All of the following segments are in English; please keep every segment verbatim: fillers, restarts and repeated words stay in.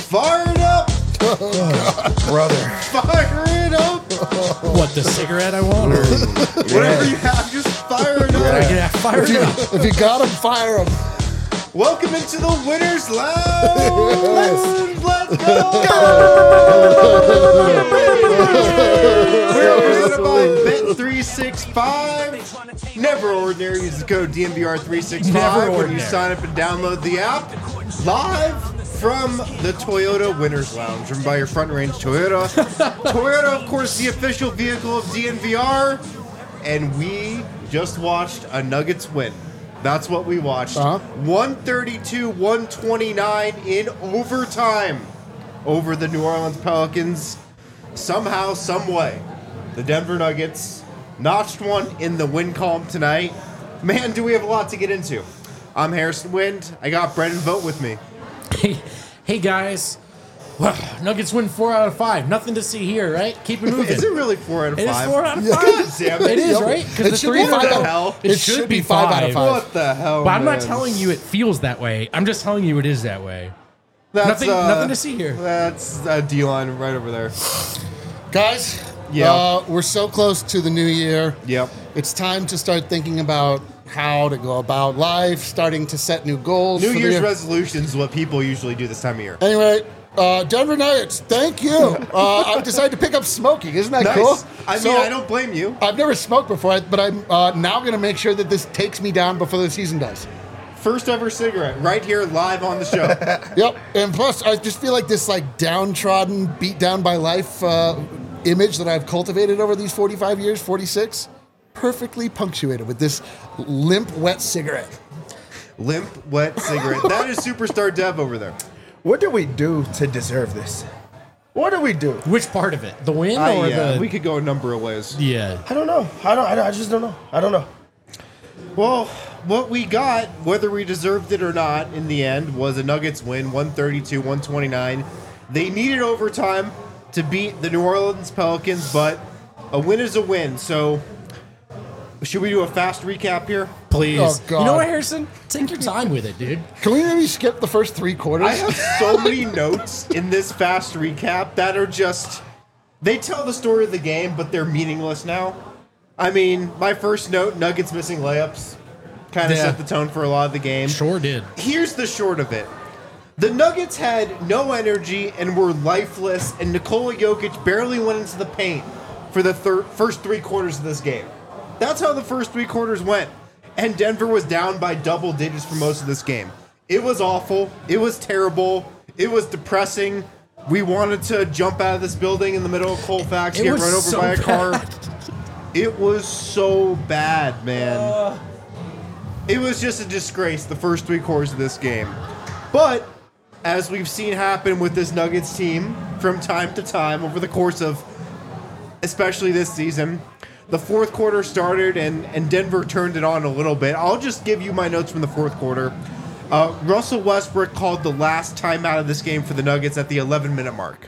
Fire it up! Oh, brother. Fire it up! What, the cigarette I want? Or Whatever you have, just fire it up. yeah, yeah, fire If it you, up. if you got him, fire him. Welcome into the Winners Lounge! Let's go! We're presented by Bet three sixty-five. Never ordinary. Use the code D M V R three sixty-five Never when you ordinary. sign up and download the app. Live from the Toyota Winners Lounge, driven by your front range Toyota. Toyota, of course, the official vehicle of D N V R. And we just watched a Nuggets win. That's what we watched. Uh-huh. one thirty-two one twenty-nine in overtime over the New Orleans Pelicans. Somehow, some way, the Denver Nuggets notched one in the win column tonight. Man, do we have a lot to get into. I'm Harrison Wind. I got Brendan Vogt with me. Hey, hey guys. Well, Nuggets win four out of five. Nothing to see here, right? Keep it moving. Is it really four out of It is five? four out of Yeah. five. God damn it. It is, Yep. right? 'Cause It the should three be in a five row- out of hell? It, It should, should be be five five. out of five. What the hell, But I'm not man? telling you it feels that way. I'm just telling you it is that way. That's, nothing, uh, nothing to see here. That's a D-line right over there. Guys, Yeah. uh, we're so close to the new year. Yep. It's time to start thinking about how to go about life, starting to set new goals. New for the Year's year. resolutions is what people usually do this time of year. Anyway, uh, Denver Nuggets, thank you. Uh, I've decided to pick up smoking. Isn't that Nice. cool? I mean, So, I don't blame you. I've never smoked before, but I'm uh, now going to make sure that this takes me down before the season does. First ever cigarette, right here, live on the show. Yep. And plus, I just feel like this like downtrodden, beat down by life uh, image that I've cultivated over these forty-five years, forty-six, perfectly punctuated with this limp, wet cigarette. Limp, wet cigarette. That is Superstar Dev over there. What do we do to deserve this? What do we do? Which part of it? The win I, or yeah, the... we could go a number of ways. yeah. I don't know. I don't. I, don't, I just don't know. I don't know. Well, what we got, whether we deserved it or not, in the end, was a Nuggets win, one thirty-two one twenty-nine. They needed overtime to beat the New Orleans Pelicans, but a win is a win. So, should we do a fast recap here? Please. Oh, God. You know what, Harrison? Take your time with it, dude. Can we maybe skip the first three quarters? I have so many notes in this fast recap that are just, they tell the story of the game, but they're meaningless now. I mean, my first note, Nuggets missing layups, kind of Yeah. set the tone for a lot of the game. Sure did. Here's the short of it. The Nuggets had no energy and were lifeless, and Nikola Jokic barely went into the paint for the thir- first three quarters of this game. That's how the first three quarters went. And Denver was down by double digits for most of this game. It was awful. It was terrible. It was depressing. We wanted to jump out of this building in the middle of Colfax, It get was run over so by a car. bad. It was so bad, man. It was just a disgrace, the first three quarters of this game. But, as we've seen happen with this Nuggets team from time to time over the course of, especially this season, the fourth quarter started and, and Denver turned it on a little bit. I'll just give you my notes from the fourth quarter. Uh, Russell Westbrook called the last timeout of this game for the Nuggets at the eleven-minute mark.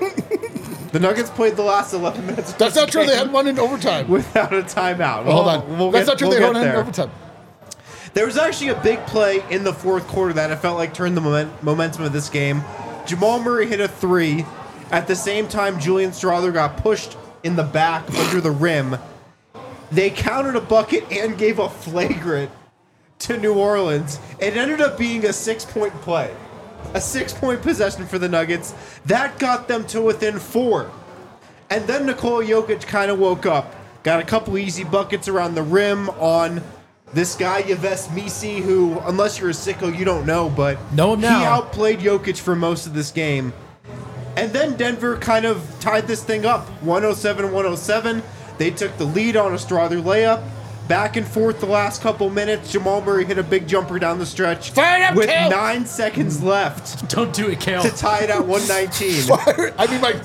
The Nuggets played the last eleven minutes. of That's this not true. They game had one in overtime. without a timeout. Hold We'll- on. we'll That's get- not true. we'll they get had one in there. overtime. There was actually a big play in the fourth quarter that I felt like turned the moment, momentum of this game. Jamal Murray hit a three. At the same time, Julian Strawther got pushed in the back under the rim. They counted a bucket and gave a flagrant to New Orleans. It ended up being a six-point play. A six-point possession for the Nuggets. That got them to within four. And then Nikola Jokic kind of woke up. Got a couple easy buckets around the rim on this guy, Yves Missi, who, unless you're a sicko, you don't know, but Know him he now. outplayed Jokic for most of this game. And then Denver kind of tied this thing up, one oh seven one oh seven. They took the lead on a Strawther layup. Back and forth the last couple minutes. Jamal Murray hit a big jumper down the stretch Fire it up, with Kale! nine seconds left Don't do it, Kale. to tie it at one nineteen. I mean my.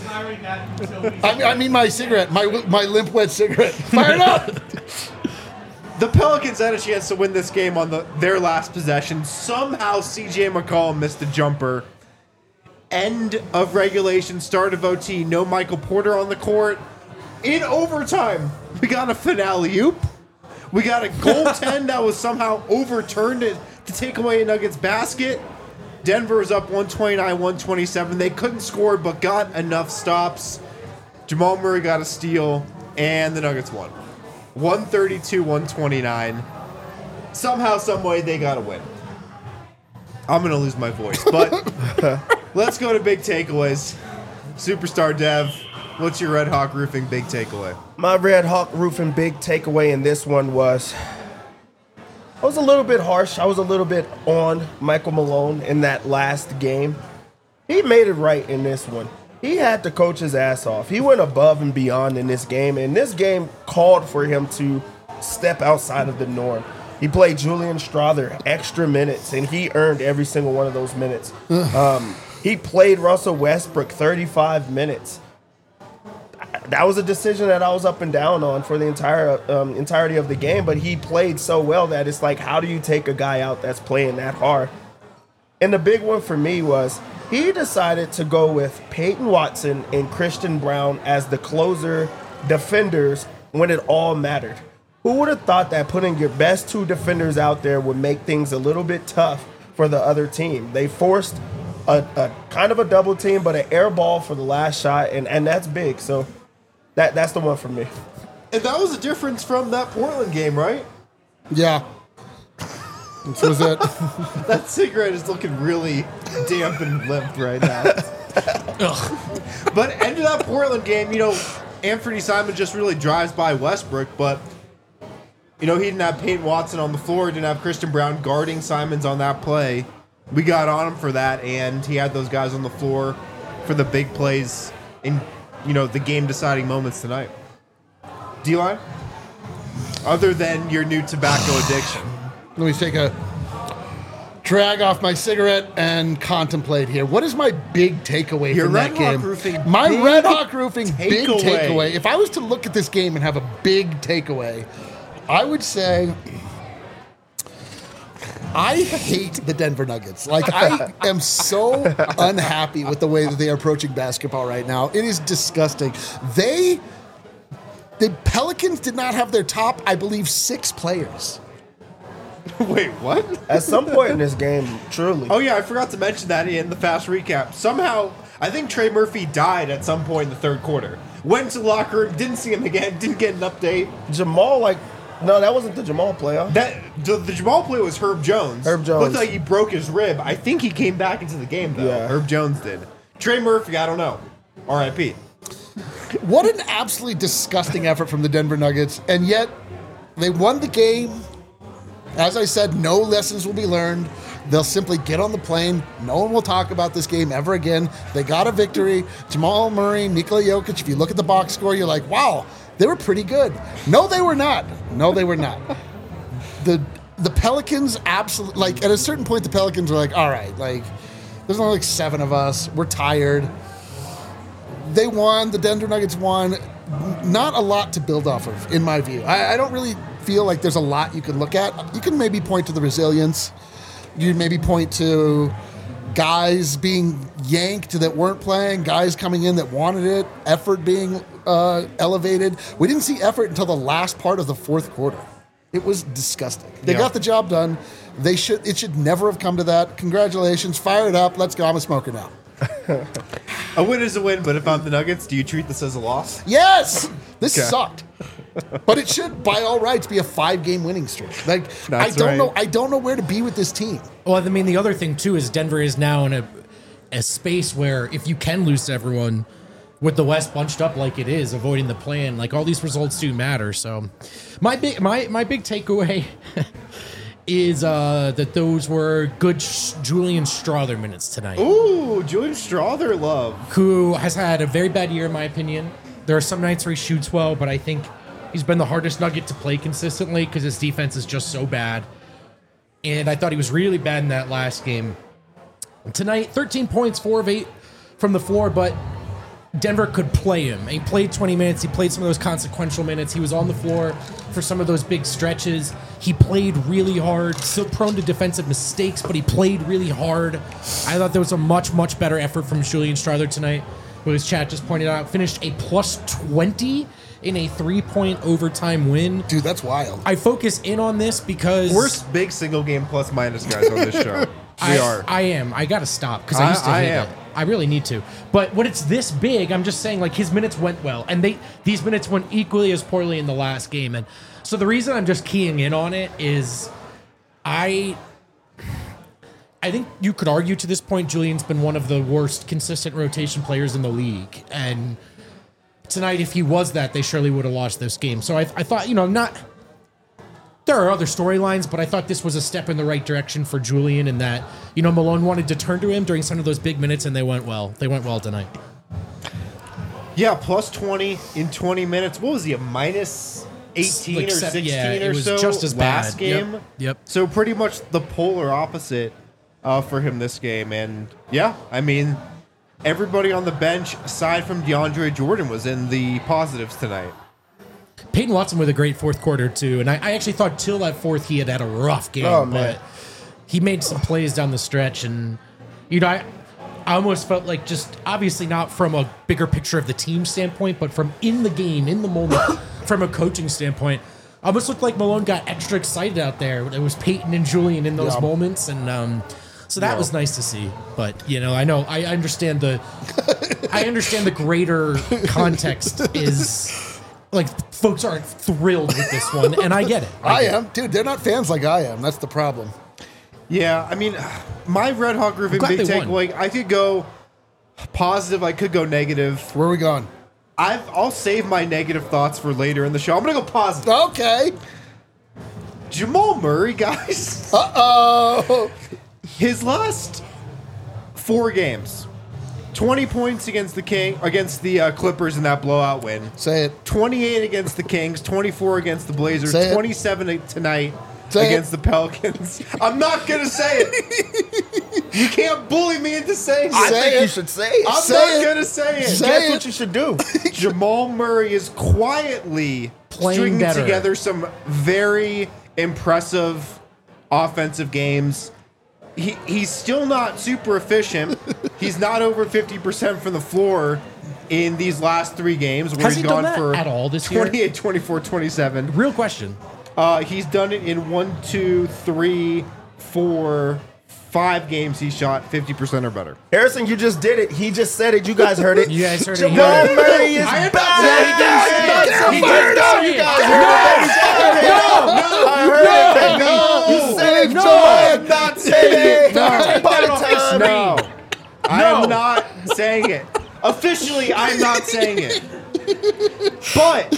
I mean, I mean my cigarette. My my limp wet cigarette. Fire it up. The Pelicans had a chance to win this game on the their last possession. Somehow C J McCollum missed a jumper. End of regulation, start of O T. No Michael Porter on the court. In overtime, we got a finale oop. We got a goaltend that was somehow overturned to, to take away a Nuggets basket. Denver was up one twenty-nine, one twenty-seven. They couldn't score, but got enough stops. Jamal Murray got a steal, and the Nuggets won. one thirty-two, one twenty-nine. Somehow, some way, they got a win. I'm going to lose my voice, but let's go to big takeaways. Superstar Dev, what's your Red Hawk Roofing big takeaway? My Red Hawk Roofing big takeaway in this one was I was a little bit harsh. I was a little bit on Michael Malone in that last game. He made it right in this one. He had to coach his ass off. He went above and beyond in this game, and this game called for him to step outside of the norm. He played Julian Strawther extra minutes, and he earned every single one of those minutes. Um, he played Russell Westbrook thirty-five minutes. That was a decision that I was up and down on for the entire um, entirety of the game, but he played so well that it's like, how do you take a guy out that's playing that hard? And the big one for me was he decided to go with Peyton Watson and Christian Brown as the closer defenders when it all mattered. Who would have thought that putting your best two defenders out there would make things a little bit tough for the other team? They forced a, a kind of a double team, but an air ball for the last shot, and, and that's big. So that that's the one for me. And that was a difference from that Portland game, right? Yeah. This was it. That cigarette is looking really damp and limp right now. But end of that Portland game, you know, Anthony Simons just really drives by Westbrook, but you know, he didn't have Peyton Watson on the floor, didn't have Christian Brown guarding Simons on that play. We got on him for that, and he had those guys on the floor for the big plays in, you know, the game-deciding moments tonight. D-Line? Other than your new tobacco addiction. Let me take a drag off my cigarette and contemplate here. What is my big takeaway Your from Red that Hawk game? Roofing my big Red Hawk Roofing big takeaway. takeaway. If I was to look at this game and have a big takeaway, I would say I hate the Denver Nuggets. Like, I am so unhappy with the way that they are approaching basketball right now. It is disgusting. They, the Pelicans did not have their top, I believe, six players. Wait, what? At some point in this game, truly. Oh, yeah, I forgot to mention that in the fast recap. Somehow, I think Trey Murphy died at some point in the third quarter. Went to the locker room, didn't see him again, didn't get an update. Jamal, like, no, that wasn't the Jamal play. Huh? That the, the Jamal play was Herb Jones. Herb Jones. Looked like he broke his rib. I think he came back into the game, though. Yeah. Herb Jones did. Trey Murphy, I don't know. R I P What an absolutely disgusting effort from the Denver Nuggets, and yet they won the game. As I said, no lessons will be learned. They'll simply get on the plane. No one will talk about this game ever again. They got a victory. Jamal Murray, Nikola Jokic, if you look at the box score, you're like, wow, they were pretty good. No, they were not. No, they were not. The the Pelicans absolutely, like, at a certain point, the Pelicans were like, all right, like, there's only like seven of us. We're tired. They won. The Denver Nuggets won. Not a lot to build off of, in my view. I, I don't really feel like there's a lot you can look at. You can maybe point to the resilience. You maybe point to guys being yanked that weren't playing, guys coming in that wanted it, effort being uh, elevated. We didn't see effort until the last part of the fourth quarter. It was disgusting. They Yeah. got the job done. They should. It should never have come to that. Congratulations. Fire it up. Let's go. I'm a smoker now. A win is a win, but if I'm the Nuggets, do you treat this as a loss? Yes! This Okay. sucked. But it should, by all rights, be a five-game winning streak. Like, I That's don't right. know. I don't know where to be with this team. Well, I mean, the other thing too is Denver is now in a a space where if you can lose to everyone with the West bunched up like it is, avoiding the plan, like all these results do matter. So, my big my my big takeaway is uh, that those were good sh- Julian Strawther minutes tonight. Ooh, Julian Strawther love. Who has had a very bad year in my opinion. There are some nights where he shoots well, but I think he's been the hardest Nugget to play consistently because his defense is just so bad. And I thought he was really bad in that last game. Tonight, thirteen points, four of eight from the floor, but Denver could play him. He played twenty minutes. He played some of those consequential minutes. He was on the floor for some of those big stretches. He played really hard, still prone to defensive mistakes, but he played really hard. I thought there was a much, much better effort from Julian Strawther tonight, who, as chat just pointed out, finished a plus twenty in a three-point overtime win. Dude, that's wild. I focus in on this because... Worst big single game plus minus guys on this show. I, are. I am. I got to stop because I I- used to I hate am. it. I really need to. But when it's this big, I'm just saying like his minutes went well, and they these minutes went equally as poorly in the last game. And so the reason I'm just keying in on it is, I. I think you could argue to this point, Julian's been one of the worst consistent rotation players in the league, and tonight, if he was that, they surely would have lost this game. So I, I thought, you know, not. There are other storylines, but I thought this was a step in the right direction for Julian in that, you know, Malone wanted to turn to him during some of those big minutes, and they went well. They went well tonight. Yeah, plus twenty in twenty minutes. What was he, a minus eighteen Like or seven- sixteen yeah, it or was so just as last bad. Yep, game? yep. So pretty much the polar opposite uh, for him this game. And yeah, I mean, everybody on the bench, aside from DeAndre Jordan, was in the positives tonight. Peyton Watson with a great fourth quarter, too. And I, I actually thought till that fourth he had had a rough game. Oh, man. But he made some plays down the stretch. And, you know, I, I almost felt like just, obviously not from a bigger picture of the team standpoint, but from in the game, in the moment, from a coaching standpoint, almost looked like Malone got extra excited out there. It was Peyton and Julian in those Yeah. moments. And um, so that Yeah. was nice to see. But, you know, I know, I understand the, I understand the greater context is... Like, folks aren't thrilled with this one, and I get it. I get it. am. Dude, they're not fans like I am. That's the problem. Yeah, I mean, my Red Hawk Roofing glad big they take, won. like, I could go positive, I could go negative. Where are we going? I've, I'll save my negative thoughts for later in the show. I'm going to go positive. Okay. Jamal Murray, guys. Uh-oh. His last four games, twenty points against the King against the uh, Clippers in that blowout win. Say it. twenty-eight against the Kings, twenty-four against the Blazers, Say it. twenty-seven tonight Say against it. the Pelicans. I'm not gonna say it. You can't bully me into saying I it. Say think it. you should say it. I'm Say not it. gonna say it. Say Guess it. what you should do. Jamal Murray is quietly Playing stringing better. together some very impressive offensive games. He, he's still not super efficient. He's not over fifty percent from the floor in these last three games where Has he's he done gone that for at all this year? twenty-eight, twenty-four, twenty-seven. Real question. Uh, he's done it in one, two, three, four, five games. He shot fifty percent or better. Harrison, you just did it. He just said it. You guys heard it. You guys heard it Jamal here. Murray is I am not back. saying He it. didn't say it. You guys heard it. I heard it, baby. You said it, No, Jamal. I am not saying it. No. Take that off the Part-time. No, I am not saying it. Officially, I'm not saying it. But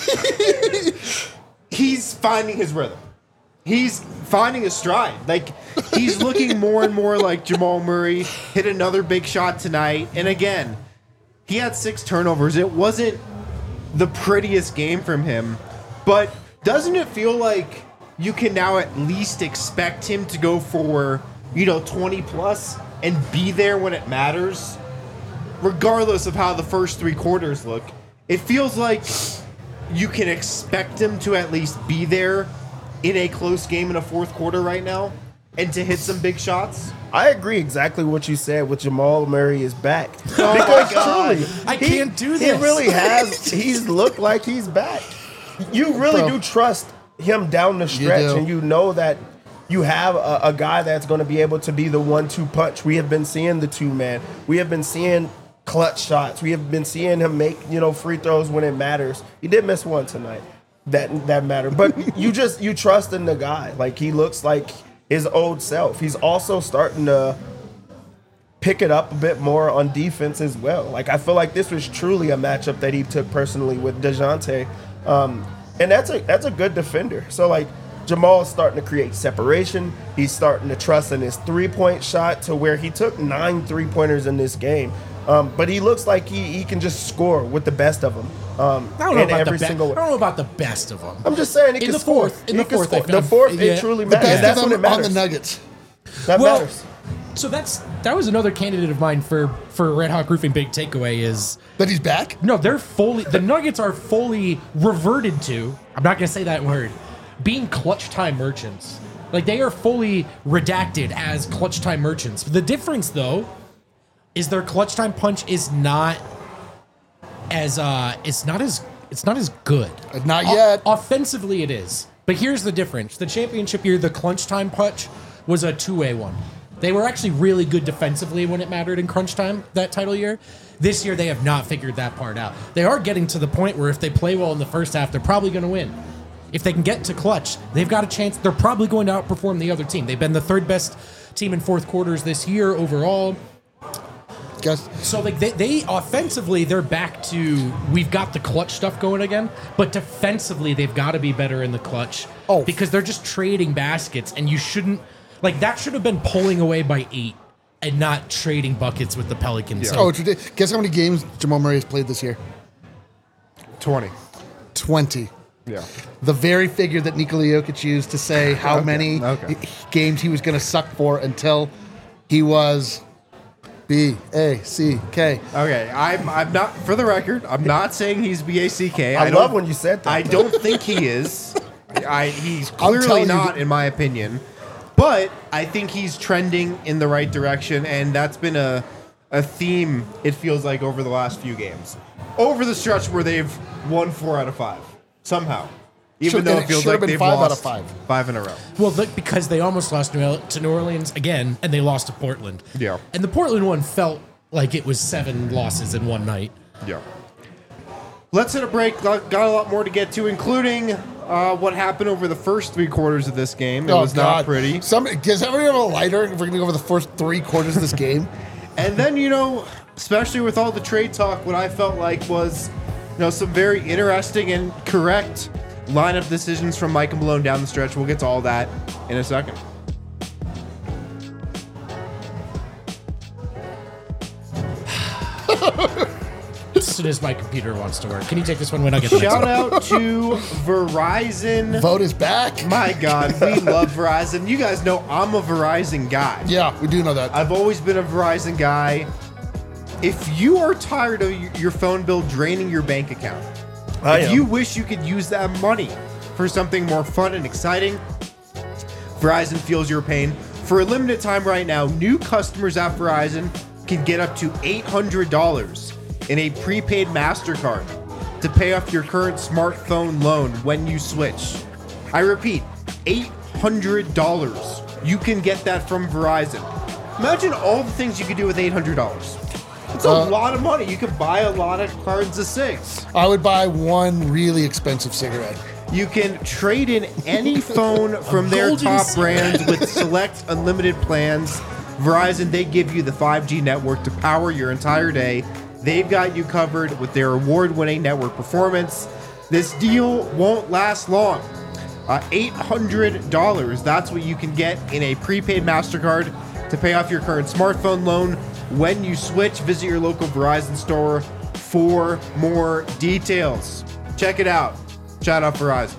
he's finding his rhythm. He's finding his stride. Like, he's looking more and more like Jamal Murray. Hit another big shot tonight. And again, he had six turnovers. It wasn't the prettiest game from him. But doesn't it feel like you can now at least expect him to go for, you know, twenty plus and be there when it matters? Regardless of how the first three quarters look, it feels like you can expect him to at least be there in a close game in a fourth quarter right now and to hit some big shots. I agree exactly what you said with Jamal Murray is back. Oh because my God. truly, I he- can't do He this. really has. He's looked like he's back. You really Bro. do trust him down the stretch, do. and you know that you have a, a guy that's going to be able to be the one-two punch. We have been seeing the two-man. We have been seeing clutch shots. We have been seeing him make, you know, free throws when it matters. He did miss one tonight. That that mattered. But you just you trust in the guy. Like, he looks like his old self. He's also starting to pick it up a bit more on defense as well. Like, I feel like this was truly a matchup that he took personally with DeJounte. Um, and that's a that's a good defender. So, like, Jamal is starting to create separation. He's starting to trust in his three-point shot to where he took nine three-pointers in this game. Um, but he looks like he, he can just score with the best of them. Um, I don't know in about the every best. I single don't know about the best of them. I'm just saying he In can the score. fourth- in He the can fourth, I score. The found- fourth, yeah. it truly The matters. best That's of when them it on matters. the Nuggets. That Well, matters. So that's that was another candidate of mine for for Red Hawk Roofing big takeaway is That he's back? no, they're fully the Nuggets are fully reverted to. I'm not gonna say that word. Being clutch time merchants. Like, they are fully redacted as clutch time merchants. The difference, though, is their clutch time punch is not as uh it's not as it's not as good. Uh, Not O- yet. offensively, it is. But here's the difference: the championship year, the clutch time punch was a two-way one. They were actually really good defensively when it mattered in crunch time that title year. This year, they have not figured that part out. They are getting to the point where if they play well in the first half, they're probably going to win. If they can get to clutch, they've got a chance. They're probably going to outperform the other team. They've been the third best team in fourth quarters this year overall. Guess. So like they, they offensively, they're back to we've got the clutch stuff going again. But defensively, they've got to be better in the clutch. Oh. Because they're just trading baskets, and you shouldn't like that should have been pulling away by eight and not trading buckets with the Pelicans. So Oh, it's ridiculous. Guess how many games Jamal Murray has played this year? twenty. twenty. Yeah. The very figure that Nikola Jokic used to say how Okay, many okay. games he was going to suck for until he was B A C K. Okay, I'm I'm not for the record. I'm not saying he's B A C K. I, don't- love when you said that. I don't think he is. I he's clearly telling you not, that- in my opinion. But I think he's trending in the right direction, and that's been a a theme. It feels like over the last few games, over the stretch where they've won four out of five somehow, even Should- though and it it feels should have like been they've five out of lost five. five in a row. Well, look, because they almost lost New- to New Orleans again, and they lost to Portland. Yeah. And the Portland one felt like it was seven losses in one night. Yeah. Let's hit a break. Got got a lot more to get to, including uh, what happened over the first three quarters of this game. It was not pretty. Some, does everybody have a lighter if we're going to go over the first three quarters of this game? And then, you know, especially with all the trade talk, what I felt like was, you know, some very interesting and correct lineup decisions from Mike Malone down the stretch. We'll get to all that in a second. As soon as my computer wants to work. Can you take this one when I get the next Shout one? out to Verizon. Vote is back. My God, we love Verizon. You guys know I'm a Verizon guy. Yeah, we do know that. I've always been a Verizon guy. If you are tired of y- your phone bill draining your bank account, I if am. you wish you could use that money for something more fun and exciting, Verizon feels your pain. For a limited time right now, new customers at Verizon can get up to eight hundred dollars in a prepaid MasterCard to pay off your current smartphone loan when you switch. I repeat, eight hundred dollars. You can get that from Verizon. Imagine all the things you could do with eight hundred dollars. It's a Uh, lot of money. You could buy a lot of cards of six. I would buy one really expensive cigarette. You can trade in any phone from their golden top cigarette. brands with select unlimited plans. Verizon, they give you the five G network to power your entire day. They've got you covered with their award-winning network performance. This deal won't last long. Uh, eight hundred dollars, that's what you can get in a prepaid MasterCard to pay off your current smartphone loan. When you switch, visit your local Verizon store for more details. Check it out. Shout out Verizon.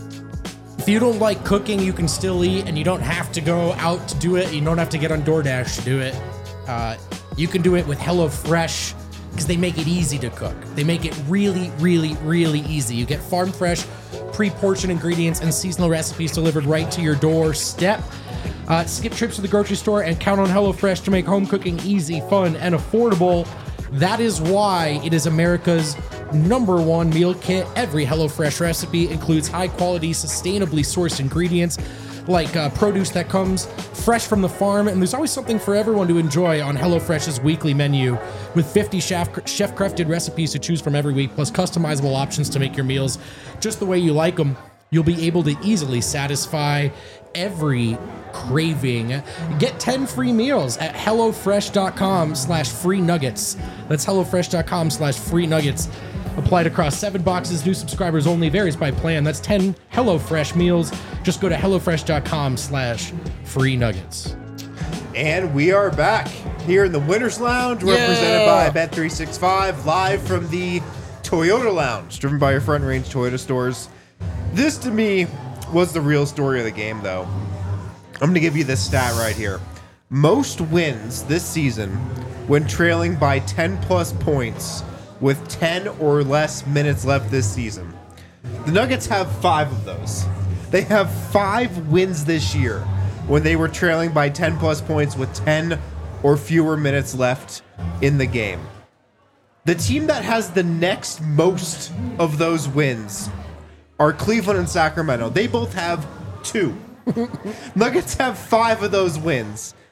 If you don't like cooking, you can still eat, and you don't have to go out to do it. You don't have to get on DoorDash to do it. Uh, you can do it with HelloFresh because they make it easy to cook. They make it really, really, really easy. You get farm fresh, pre-portioned ingredients and seasonal recipes delivered right to your doorstep. Uh, skip trips to the grocery store and count on HelloFresh to make home cooking easy, fun, and affordable. That is why it is America's number one meal kit. Every HelloFresh recipe includes high-quality, sustainably sourced ingredients like uh, produce that comes fresh from the farm, and there's always something for everyone to enjoy on HelloFresh's weekly menu with fifty chef chef-crafted recipes to choose from every week, plus customizable options to make your meals just the way you like them. You'll be able to easily satisfy every craving. Get ten free meals at HelloFresh.com slash free nuggets. That's HelloFresh.com slash free nuggets. Applied across seven boxes. New subscribers only. Varies by plan. That's ten HelloFresh meals. Just go to HelloFresh.com slash free nuggets. And we are back here in the Winners Lounge, represented Yeah. by Bet three sixty-five, live from the Toyota Lounge, driven by your Front Range Toyota stores. This, to me, was the real story of the game, though. I'm going to give you this stat right here. Most wins this season when trailing by ten plus points with ten or less minutes left this season. The Nuggets have five of those. They have five wins this year when they were trailing by ten plus points with ten or fewer minutes left in the game. The team that has the next most of those wins are Cleveland and Sacramento. They both have two. Nuggets have five of those wins.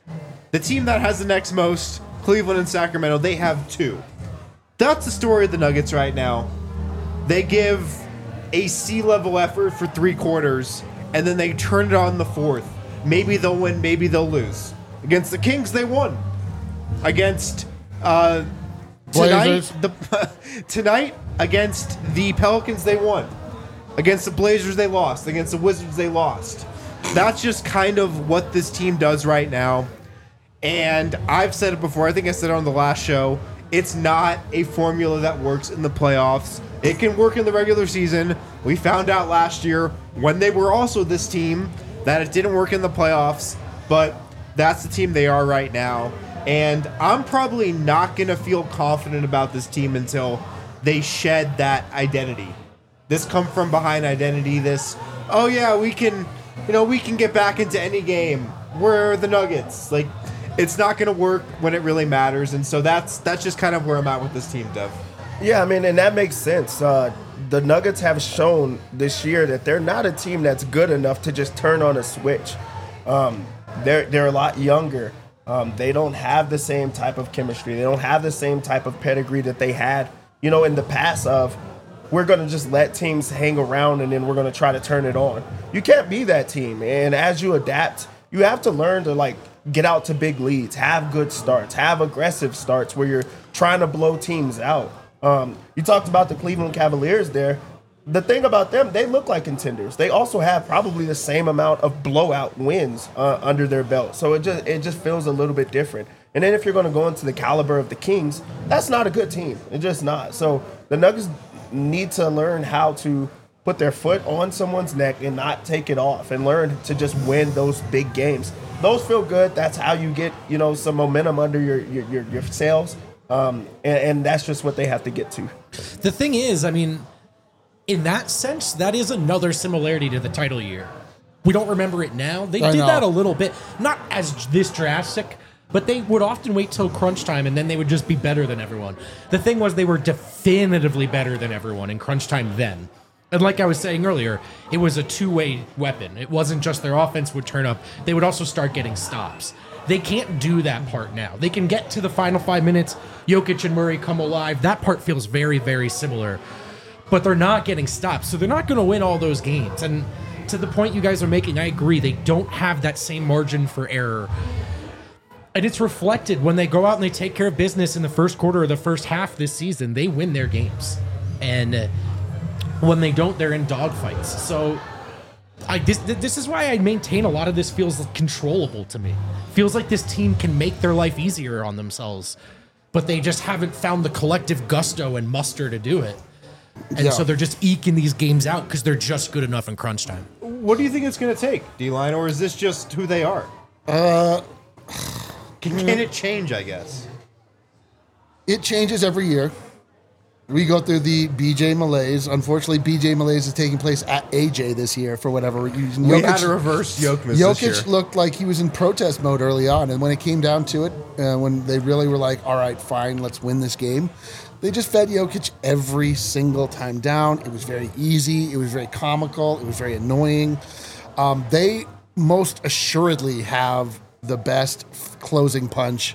The team that has the next most, Cleveland and Sacramento, they have two. That's the story of the Nuggets right now. They give a C-level effort for three quarters, and then they turn it on the fourth. Maybe they'll win, maybe they'll lose. Against the Kings, they won. Against uh, tonight, Blazers. the tonight against the Pelicans, they won. Against the Blazers, they lost. Against the Wizards, they lost. That's just kind of what this team does right now. And I've said it before. I think I said it on the last show. It's not a formula that works in the playoffs. It can work in the regular season. We found out last year when they were also this team that it didn't work in the playoffs. But that's the team they are right now. And I'm probably not going to feel confident about this team until they shed that identity. This come from behind identity. This, oh yeah, we can, you know, we can get back into any game. We're the Nuggets. Like, it's not going to work when it really matters. And so that's that's just kind of where I'm at with this team, Dev. Yeah, I mean, and that makes sense. Uh, the Nuggets have shown this year that they're not a team that's good enough to just turn on a switch. Um, they're they're a lot younger. Um, they don't have the same type of chemistry. They don't have the same type of pedigree that they had, you know, in the past of we're going to just let teams hang around and then we're going to try to turn it on. You can't be that team. And as you adapt, you have to learn to, like, get out to big leads, have good starts, have aggressive starts where you're trying to blow teams out. Um, you talked about the Cleveland Cavaliers there. The thing about them, they look like contenders. They also have probably the same amount of blowout wins uh, under their belt. So it just it just feels a little bit different. And then if you're going to go into the caliber of the Kings, that's not a good team. It's just not. So the Nuggets need to learn how to put their foot on someone's neck and not take it off and learn to just win those big games. Those feel good. That's how you get, you know, some momentum under your your, your, your sails. Um, and, and that's just what they have to get to. The thing is, I mean, in that sense, that is another similarity to the title year. We don't remember it now. They I did know. that a little bit, not as this drastic, but they would often wait till crunch time and then they would just be better than everyone. The thing was they were definitively better than everyone in crunch time then. And like I was saying earlier, it was a two-way weapon. It wasn't just their offense would turn up. They would also start getting stops. They can't do that part now. They can get to the final five minutes. Jokic and Murray come alive. That part feels very, very similar. But they're not getting stops, so they're not going to win all those games. And to the point you guys are making, I agree. They don't have that same margin for error. And it's reflected when they go out and they take care of business in the first quarter or the first half this season. They win their games. And uh, when they don't, they're in dogfights. So I, this, this is why I maintain a lot of this feels controllable to me. Feels like this team can make their life easier on themselves, but they just haven't found the collective gusto and muster to do it. And Yeah. so they're just eking these games out because they're just good enough in crunch time. What do you think it's going to take, D-Line, or is this just who they are? Uh, can, can it change, I guess? It changes every year. We go through the B J malaise. Unfortunately, B J malaise is taking place at A J this year for whatever reason. We Jokic- had a reverse Jokic this year. Jokic looked like he was in protest mode early on, and when it came down to it, uh, when they really were like, all right, fine, let's win this game, they just fed Jokic every single time down. It was very easy. It was very comical. It was very annoying. Um, they most assuredly have the best f- closing punch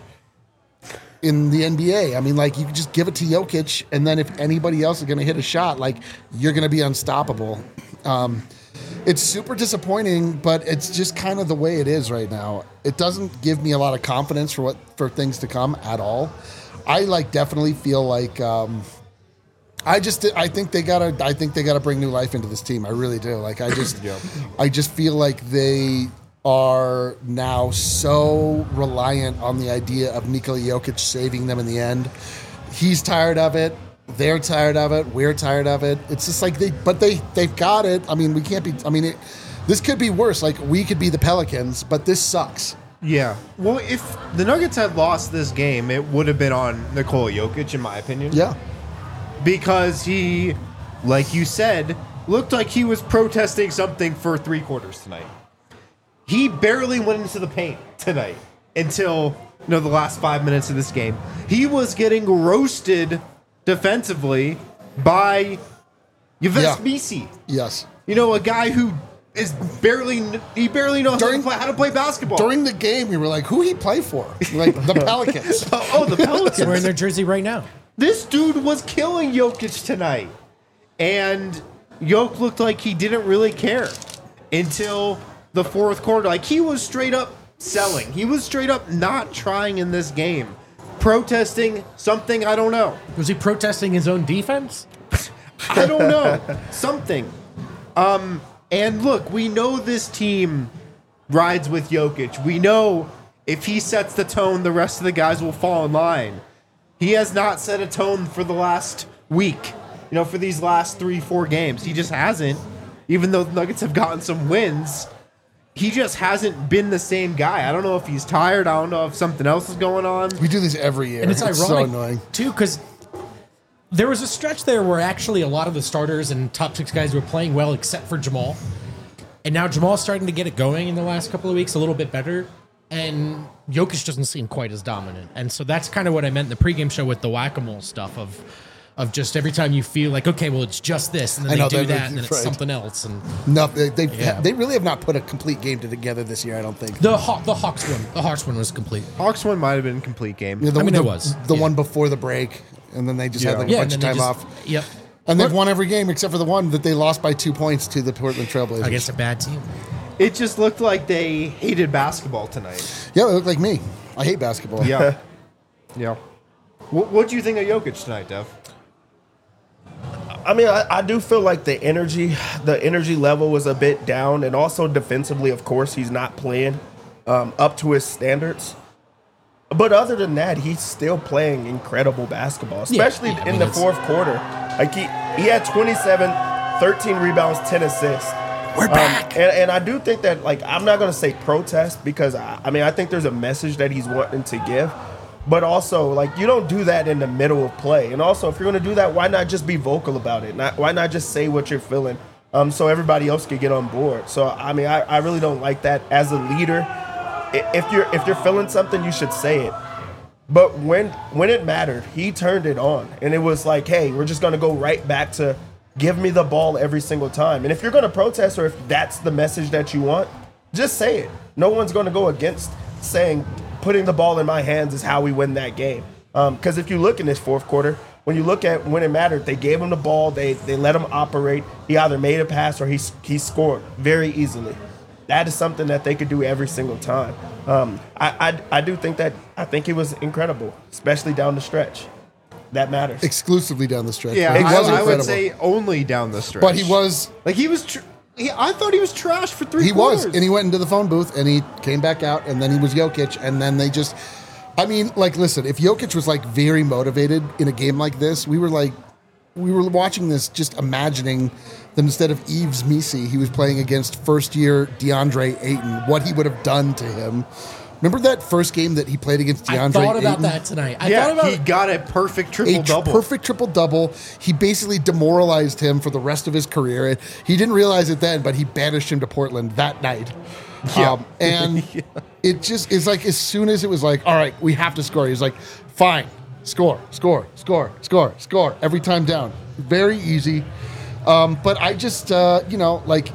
in the N B A. I mean, like, you can just give it to Jokic, and then if anybody else is going to hit a shot, like, you're going to be unstoppable. Um, it's super disappointing, but it's just kind of the way it is right now. It doesn't give me a lot of confidence for what for things to come at all. I like definitely feel like um, I just I think they gotta I think they gotta bring new life into this team. I really do. Like I just Yep. I just feel like they are now so reliant on the idea of Nikola Jokic saving them in the end. He's tired of it. They're tired of it. We're tired of it. It's just like they, but they, they've got it. I mean, we can't be, I mean, it, this could be worse. Like, we could be the Pelicans, but this sucks. Yeah. Well, if the Nuggets had lost this game, it would have been on Nikola Jokic, in my opinion. Yeah. Because he, like you said, looked like he was protesting something for three quarters tonight. He barely went into the paint tonight until, you know, the last five minutes of this game. He was getting roasted defensively by Yves Yeah. Missi. Yes. You know, a guy who is barely he barely knows During- how, to play, how to play basketball. During the game, we were like, "Who he play for?" Like the Pelicans. oh, oh, the Pelicans. We're in their jersey right now. This dude was killing Jokic tonight, and Jokic looked like he didn't really care until the fourth quarter. Like he was straight up selling. He was straight up not trying in this game, protesting something I don't know. Was he protesting his own defense? I don't know. Something. Um, and look, we know this team rides with Jokic. We know if he sets the tone, the rest of the guys will fall in line. He has not set a tone for the last week, you know, for these last three, four games. He just hasn't. Even though the Nuggets have gotten some wins, he just hasn't been the same guy. I don't know if he's tired. I don't know if something else is going on. We do this every year. And it's, it's ironic, so annoying. too, because there was a stretch there where actually a lot of the starters and top six guys were playing well except for Jamal. And now Jamal's starting to get it going in the last couple of weeks a little bit better. And Jokic doesn't seem quite as dominant. And so that's kind of what I meant in the pregame show with the whack-a-mole stuff of of just every time you feel like, okay, well, it's just this. And then I know, they do that- that, and then it's right. something else. And No, they they, Yeah. they really have not put a complete game together this year. I don't think. the Haw- the Hawks one, the Hawks one was complete. Hawks one might have been a complete game. Yeah, the, I mean, the, it was, the yeah. one before the break, and then they just had Yeah. like a Yeah, bunch and of then time they off. just, Yep. And they've won every game except for the one that they lost by two points to the Portland Trailblazers. Against a bad team. It just looked like they hated basketball tonight. Yeah, they look like me. I hate basketball. Yeah. yeah. What What do you think of Jokic tonight, Dev? I mean, I, I do feel like the energy, the energy level was a bit down, and also defensively, of course, he's not playing um, up to his standards. But other than that, he's still playing incredible basketball, especially yeah, I in mean, the it's- fourth quarter. Like he, he had twenty-seven, thirteen rebounds, ten assists. We're back. Um, and, and I do think that, like, I'm not going to say protest because, I, I mean, I think there's a message that he's wanting to give. But also, like, you don't do that in the middle of play. And also, if you're going to do that, why not just be vocal about it? Not, why not just say what you're feeling um, so everybody else can get on board? So, I mean, I, I really don't like that. As a leader, i- if you're if you're feeling something, you should say it. But when when it mattered, he turned it on. And it was like, hey, we're just going to go right back to give me the ball every single time. And if you're going to protest or if that's the message that you want, just say it. No one's going to go against saying putting the ball in my hands is how we win that game. Because um, if you look in this fourth quarter, when you look at when it mattered, they gave him the ball, they they let him operate. He either made a pass or he, he scored very easily. That is something that they could do every single time. Um, I, I I do think that I think he was incredible, especially down the stretch. That matters. Exclusively down the stretch. Yeah, But he I, was I would incredible. say only down the stretch. But he was like he was. Tr- he, I thought he was trash for three. He was, quarters. and he went into the phone booth, and he came back out, and then he was Jokic, and then they just, I mean, like, listen, if Jokic was like very motivated in a game like this, we were like, we were watching this, just imagining that instead of Yves Missi, he was playing against first-year DeAndre Ayton, what he would have done to him. Remember that first game that he played against DeAndre I thought about Ayton? that tonight. I yeah, thought about he got a perfect triple a double. perfect triple double. He basically demoralized him for the rest of his career. And he didn't realize it then, but he banished him to Portland that night. Yeah. Um, and Yeah. it just is like as soon as it was like, all right, we have to score. He's like, fine, score, score, score, score, score every time down. Very easy. Um, but I just, uh, you know, like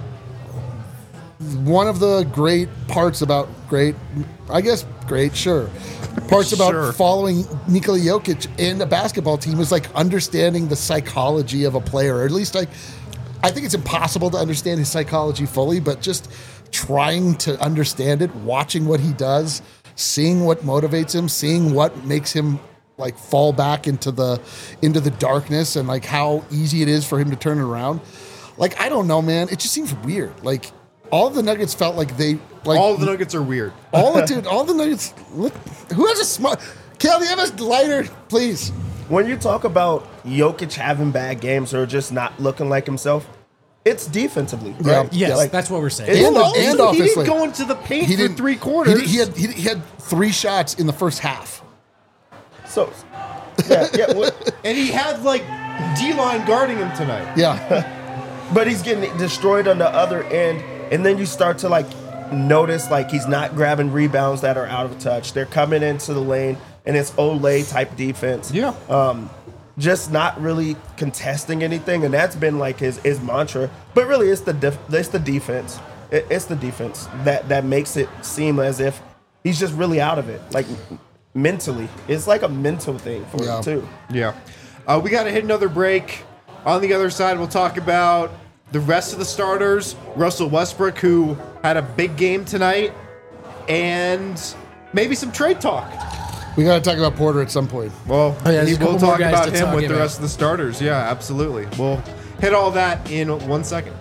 one of the great parts about great, I guess great, sure. Parts about Sure. following Nikola Jokic in a basketball team is like understanding the psychology of a player, or at least like, I think it's impossible to understand his psychology fully, but just trying to understand it, watching what he does, seeing what motivates him, seeing what makes him like fall back into the into the darkness, and like how easy it is for him to turn it around. Like, I don't know, man. It just seems weird. Like, all the Nuggets felt like they like All the Nuggets are weird. all the dude, all the Nuggets. Look, who has a smart? Kel, do you have a lighter, please? When you talk about Jokic having bad games or just not looking like himself, it's defensively, Yeah. right? Yes, Like, that's what we're saying. It's And- not- and he, he offensively. didn't go into the paint He for didn't three He, quarters. did- he had he, he had three shots in the first half. So, yeah, yeah. What, and he had like D-line guarding him tonight. Yeah, but he's getting destroyed on the other end, and then you start to like notice like he's not grabbing rebounds that are out of touch. They're coming into the lane, and it's Olay type defense. Yeah. Um, just not really contesting anything, and that's been like his his mantra. But really, it's the def- it's the defense. It, it's the defense that that makes it seem as if he's just really out of it, like mentally. It's like a mental thing for Yeah. him too. Yeah. Uh, we got to hit another break. On the other side, we'll talk about the rest of the starters. Russell Westbrook, who had a big game tonight, and maybe some trade talk. We got to talk about Porter at some point. Well, Oh, yeah, there's he a couple will more talk guys about to him talk with the about. rest of the starters. Yeah, absolutely. We'll hit all that in one second.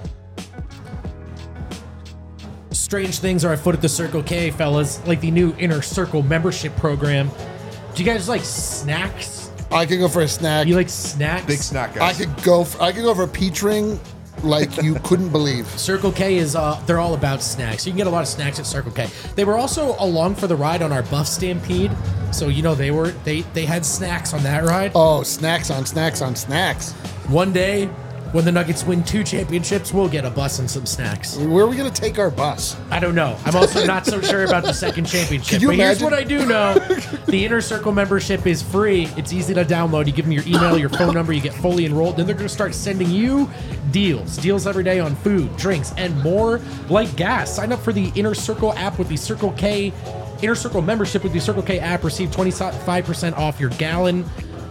Strange things are afoot at the Circle K, fellas, like the new Inner Circle membership program. Do you guys like snacks? I could go for a snack. You like snacks? Big snack, I guys. could go. For, I could go for a peach ring, like you couldn't believe. Circle K is, uh, they're all about snacks. You can get a lot of snacks at Circle K. They were also along for the ride on our Buff Stampede. So, you know, they were, they, they had snacks on that ride. Oh, snacks on snacks on snacks. One day, when the Nuggets win two championships, we'll get a bus and some snacks. Where are we gonna take our bus? I don't know. I'm also not so sure about the second championship. Can you but here's imagine? what I do know. The Inner Circle membership is free. It's easy to download. You give them your email, your phone number, you get fully enrolled. Then they're going to start sending you deals. Deals every day on food, drinks, and more like gas. Sign up for the Inner Circle app with the Circle K Inner Circle membership with the Circle K app. Receive twenty-five percent off your gallon.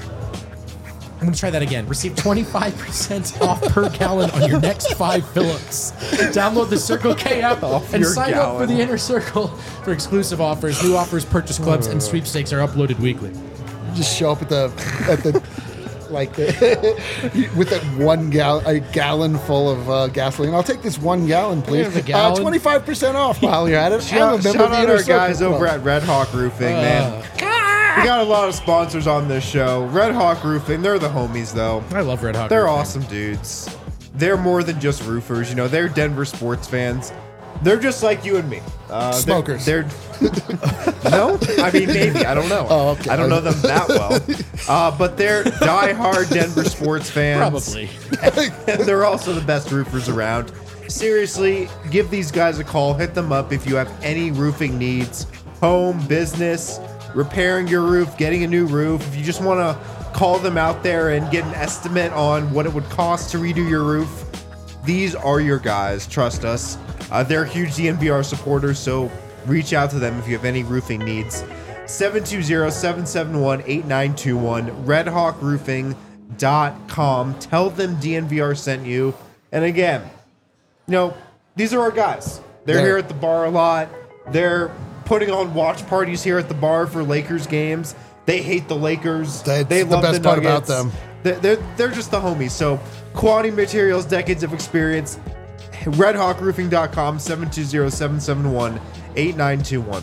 I'm going to try that again. Receive twenty-five percent off per gallon on your next five fill-ups. Download the Circle K app Off and your sign up for gallon. the Inner Circle for exclusive offers. New offers, purchase clubs, and sweepstakes are uploaded weekly. You just show up at the at the like the, with that one gallon a gallon full of uh, gasoline. I'll take this one gallon, please. Here's a gallon. Twenty-five percent off while you're at it. I'm a Shout, member shout of the out Inner our Circle guys over Club. at Red Hawk Roofing, man. We got a lot of sponsors on this show. Red Hawk Roofing, they're the homies, though. I love Red Hawk. They're Roofing. awesome dudes. They're more than just roofers. You know, they're Denver sports fans. They're just like you and me. Uh, they're- Smokers. They're, no, I mean maybe. I don't know. Oh, okay. I don't know them that well. Uh, but they're diehard Denver sports fans. Probably. And they're also the best roofers around. Seriously, give these guys a call. Hit them up if you have any roofing needs. Home, business, repairing your roof, getting a new roof. If you just want to call them out there and get an estimate on what it would cost to redo your roof, these are your guys. Trust us. Uh, they're huge D N V R supporters, so reach out to them if you have any roofing needs. seven two zero, seven seven one, eight nine two one, red hawk roofing dot com. Tell them D N V R sent you. And again, you know, these are our guys. They're They're- here at the bar a lot. They're putting on watch parties here at the bar for Lakers games. They hate the Lakers. That's they the love best the part about Nuggets. them. They're, they're, they're just the homies. So quality materials, decades of experience. red hawk roofing dot com, seven two zero, seven seven one, eight nine two one.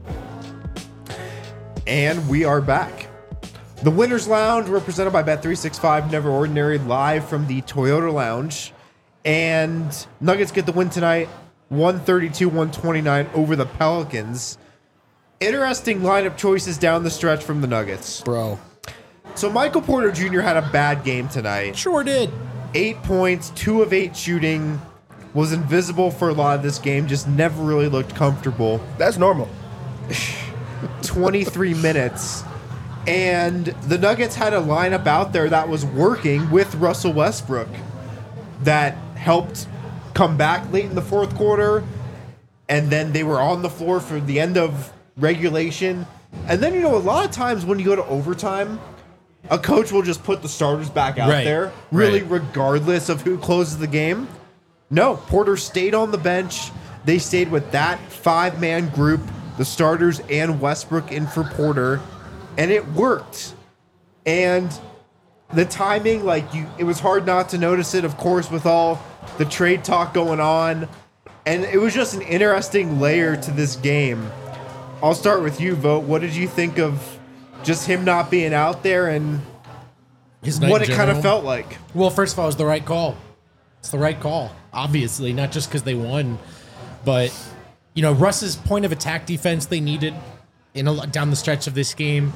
And we are back. The Winners Lounge, represented by Bet three sixty-five, Never Ordinary, live from the Toyota Lounge. And Nuggets get the win tonight, one thirty-two one twenty-nine over the Pelicans. Interesting lineup choices down the stretch from the Nuggets. Bro. So Michael Porter Junior had a bad game tonight. Sure did. Eight points, two of eight shooting, was invisible for a lot of this game, just never really looked comfortable. That's normal. twenty-three minutes. And the Nuggets had a lineup out there that was working with Russell Westbrook that helped come back late in the fourth quarter. And then they were on the floor for the end of regulation. And then, you know, a lot of times when you go to overtime, a coach will just put the starters back out Right, there, really right. regardless of who closes the game. No, Porter stayed on the bench. They stayed with that five-man group, the starters and Westbrook in for Porter, and it worked. And the timing, like you, it was hard not to notice it, of course, with all the trade talk going on. And it was just an interesting layer to this game. I'll start with you, Vote. What did you think of just him not being out there and His night what in it kind of general. felt like? Well, first of all, it was the right call. It's the right call, obviously, not just because they won, but you know, Russ's point of attack defense they needed in a, down the stretch of this game.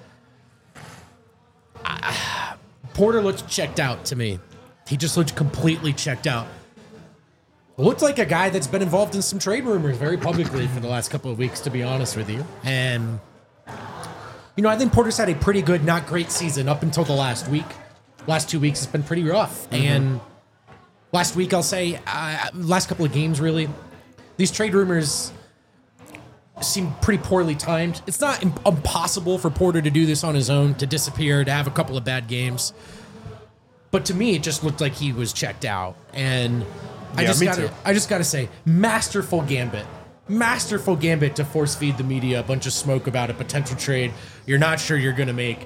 I, Porter looked checked out to me. He just looked completely checked out. Looked like a guy that's been involved in some trade rumors very publicly for the last couple of weeks, to be honest with you. And you know, I think Porter's had a pretty good, not great season up until the last week. Last two weeks has been pretty rough. Mm-hmm. And last week, I'll say, uh, last couple of games, really, these trade rumors seem pretty poorly timed. It's not im- impossible for Porter to do this on his own, to disappear, to have a couple of bad games. But to me, it just looked like he was checked out. And I Yeah, just me gotta, too. I just gotta say, masterful gambit. Masterful gambit to force feed the media a bunch of smoke about a potential trade you're not sure you're going to make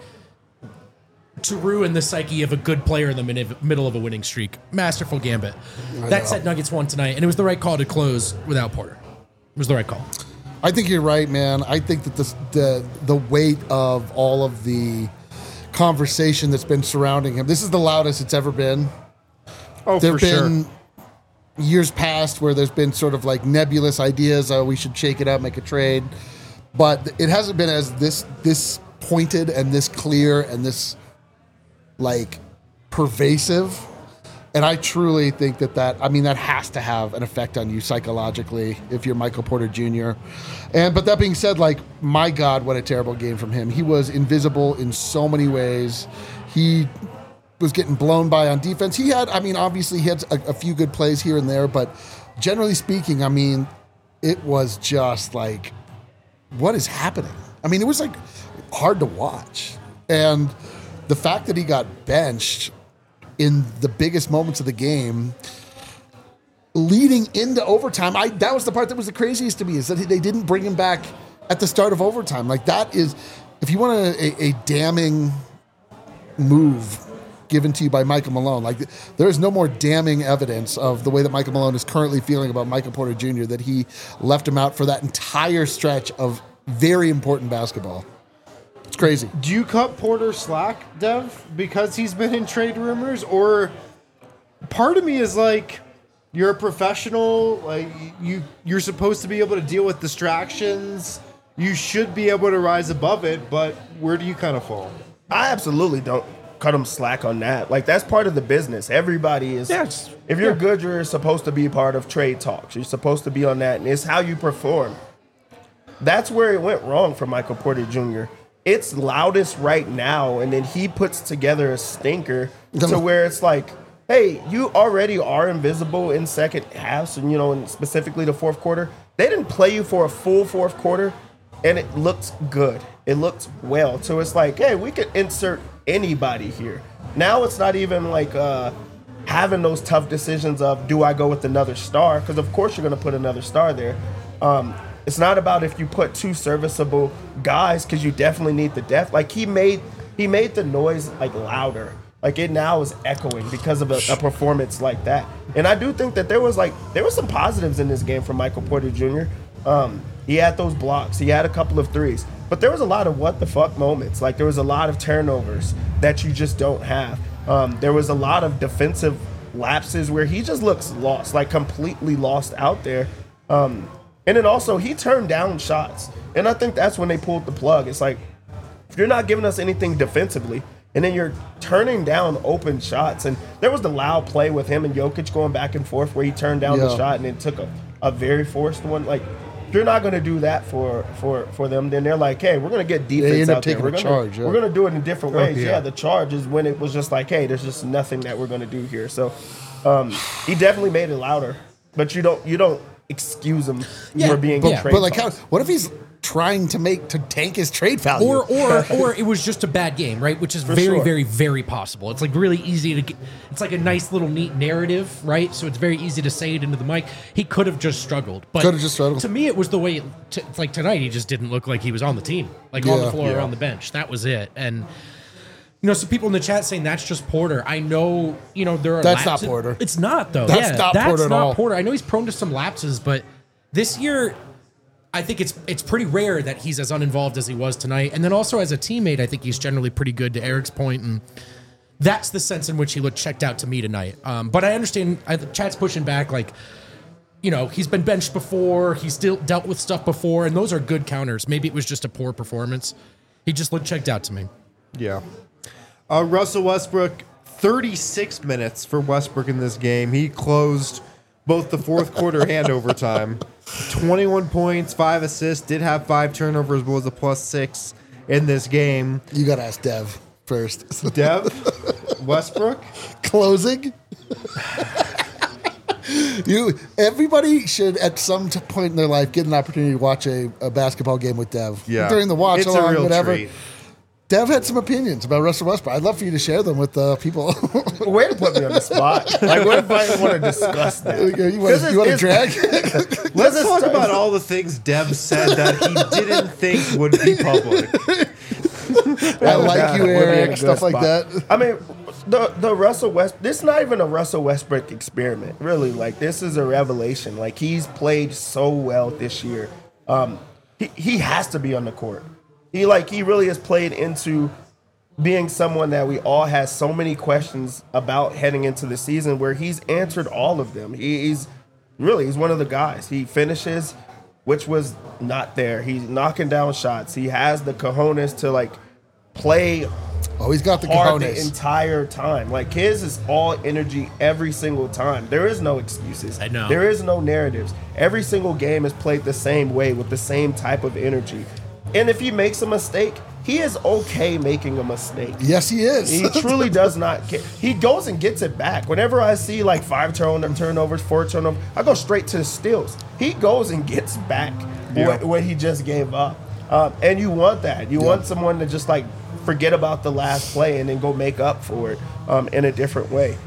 to ruin the psyche of a good player in the min- middle of a winning streak. Masterful gambit. That said, Nuggets won tonight, and it was the right call to close without Porter. It was the right call. I think you're right, man. I think that this, the the weight of all of the conversation that's been surrounding him. This is the loudest it's ever been. Oh, There've for been sure. years past where there's been sort of like nebulous ideas. Oh, we should shake it up, make a trade, but it hasn't been as this this pointed and this clear and this like pervasive. And I truly think that that, I mean, that has to have an effect on you psychologically if you're Michael Porter Junior And, but that being said, like, my God, what a terrible game from him. He was invisible in so many ways. He was getting blown by on defense. He had, I mean, obviously he had a, a few good plays here and there, but generally speaking, I mean, it was just like, what is happening? I mean, it was like hard to watch. And the fact that he got benched in the biggest moments of the game, leading into overtime, I that was the part that was the craziest to me, is that they didn't bring him back at the start of overtime. Like, that is, if you want a, a, a damning move given to you by Michael Malone, like, there is no more damning evidence of the way that Michael Malone is currently feeling about Michael Porter Junior that he left him out for that entire stretch of very important basketball. It's crazy. Do you cut Porter slack, Dev, because he's been in trade rumors? Or part of me is like, you're a professional, like you you're supposed to be able to deal with distractions. You should be able to rise above it, but where do you kind of fall? I absolutely don't cut him slack on that. Like, that's part of the business. Everybody is. Yes. If you're Yeah. good, you're supposed to be part of trade talks. You're supposed to be on that, and it's how you perform. That's where it went wrong for Michael Porter Junior It's loudest right now, and then he puts together a stinker to where it's like, hey, you already are invisible in second halves, and you know, and specifically the fourth quarter. They didn't play you for a full fourth quarter, and it looked good. It looked well. So it's like, hey, we could insert anybody here. Now it's not even like uh, having those tough decisions of, do I go with another star? Because of course you're going to put another star there. Um, it's not about if you put two serviceable guys, because you definitely need the depth. Like, he made he made the noise like louder. Like, it now is echoing because of a, a performance like that. And I do think that there was like there was some positives in this game for Michael Porter Junior Um, he had those blocks. He had a couple of threes. But there was a lot of what the fuck moments. Like, there was a lot of turnovers that you just don't have. Um, there was a lot of defensive lapses where he just looks lost, like completely lost out there. Um, and then also, he turned down shots. And I think that's when they pulled the plug. It's like, if you're not giving us anything defensively, and then you're turning down open shots. And there was the loud play with him and Jokic going back and forth where he turned down Yeah. the shot and then took a, a very forced one. Like, if you're not going to do that for, for, for them, then they're like, hey, we're going to get defense end up out there. taking We're a gonna, charge, yeah. We're going to do it in different ways. yeah. yeah. the charge is when it was just like, hey, there's just nothing that we're going to do here. So um, he definitely made it louder. But you don't you don't excuse him Yeah, for being but- yeah, But like, how, what if he's trying to make to tank his trade value? Or, or, or it was just a bad game, right? Which is very, sure. very, very possible. It's like really easy to get. It's like a nice little neat narrative, right? So it's very easy to say it into the mic. He could have just struggled, but Could have just struggled. To me, it was the way. It, t- it's like tonight, he just didn't look like he was on the team, like on Yeah. the floor Yeah. or on the bench. That was it. And you know, some people in the chat saying that's just Porter. I know, you know, there are. That's not lapses. Porter. It's not though. That's yeah, not that's Porter at not all. Porter. I know he's prone to some lapses, but this year, I think it's it's pretty rare that he's as uninvolved as he was tonight. And then also as a teammate, I think he's generally pretty good, to Eric's point, and that's the sense in which he looked checked out to me tonight. Um, but I understand I, the chat's pushing back, like, you know, he's been benched before, he's still dealt with stuff before, and those are good counters. Maybe it was just a poor performance. He just looked checked out to me. Yeah. Uh, Russell Westbrook, thirty-six minutes for Westbrook in this game. He closed both the fourth quarter and overtime. twenty-one points, five assists, did have five turnovers, but was a plus six in this game. You got to ask Dev first. Dev, Westbrook? Closing? You, everybody should at some t- point in their life get an opportunity to watch a, a basketball game with Dev. Yeah. During the watch It's a along, real whatever. treat. Dev had some opinions about Russell Westbrook. I'd love for you to share them with uh, people. Way to put me on the spot. Like, what if I want to discuss that? you want This to is- drag? Let's is- talk about all the things Dev said that he didn't think would be public. I like God, you, we'll be in a Eric. good Stuff like spot. that. I mean, the the Russell West. This is not even a Russell Westbrook experiment, really. Like, this is a revelation. Like, he's played so well this year. Um, he he has to be on the court. He like he really has played into being someone that we all had so many questions about heading into the season, where he's answered all of them. He, he's really he's one of the guys. He finishes, which was not there. He's knocking down shots. He has the cojones to like play Oh, he's got the hard the cojones. entire time. Like, his is all energy every single time. There is no excuses. I know. There is no narratives. Every single game is played the same way with the same type of energy. And if he makes a mistake, he is okay making a mistake. Yes, he is. He truly does not care. He goes and gets it back. Whenever I see like five turn- turnovers, four turnovers, I go straight to the steals. He goes and gets back Yeah. what, what he just gave up. Um, and you want that. You Yeah. want someone to just like forget about the last play and then go make up for it um, in a different way.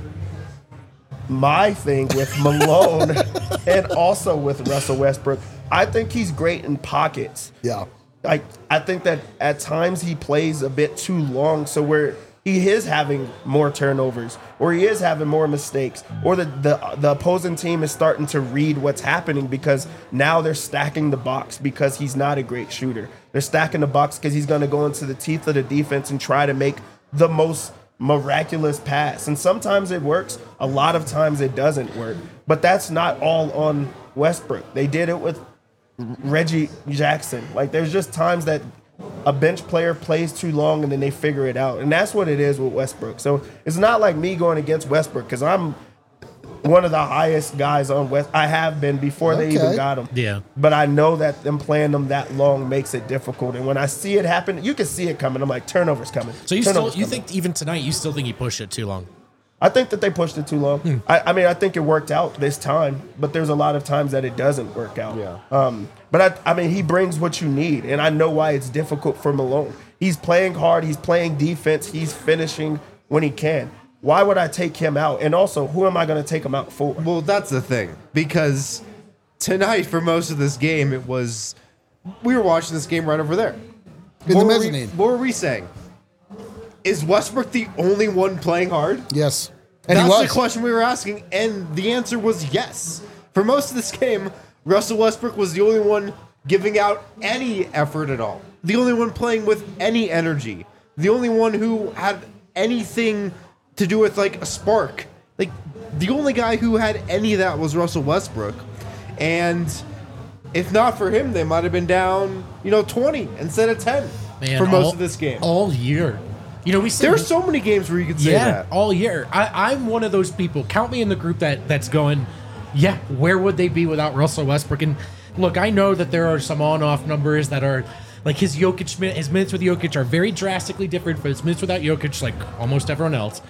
My thing with Malone and also with Russell Westbrook, I think he's great in pockets. Yeah. I I think that at times he plays a bit too long, so where he is having more turnovers, or he is having more mistakes, or the, the the opposing team is starting to read what's happening because now they're stacking the box because he's not a great shooter. They're stacking the box because he's going to go into the teeth of the defense and try to make the most miraculous pass. And sometimes it works, a lot of times it doesn't work. But that's not all on Westbrook. They did it with Reggie Jackson. Like, there's just times that a bench player plays too long and then they figure it out. And that's what it is with Westbrook. So it's not like me going against Westbrook because I'm one of the highest guys on West. I have been before they even Okay. got him. Yeah. But I know that them playing them that long makes it difficult. And when I see it happen, you can see it coming. I'm like, turnovers coming. So you still Turnovers you coming. think even tonight you still think he pushed it too long? I think that they pushed it too long. Hmm. I, I mean, I think it worked out this time, but there's a lot of times that it doesn't work out. Yeah. Um, but I, I mean, he brings what you need, and I know why it's difficult for Malone. He's playing hard. He's playing defense. He's finishing when he can. Why would I take him out? And also, who am I going to take him out for? Well, that's the thing, because tonight, for most of this game, it was we were watching this game right over there In what the were we- mezzanine. what were we saying? Is Westbrook the only one playing hard? Yes. And That's he was. the question we were asking, and the answer was yes. For most of this game, Russell Westbrook was the only one giving out any effort at all. The only one playing with any energy. The only one who had anything to do with like a spark. Like the only guy who had any of that was Russell Westbrook. And if not for him, they might have been down, you know, twenty instead of ten Man, for most all- of this game. all year. You know, we said There are so many games where you could say yeah, that. all year. I, I'm one of those people. Count me in the group that that's going. Yeah, where would they be without Russell Westbrook? And look, I know that there are some on-off numbers that are like his Jokic min- his minutes with Jokic are very drastically different from his minutes without Jokic, like almost everyone else.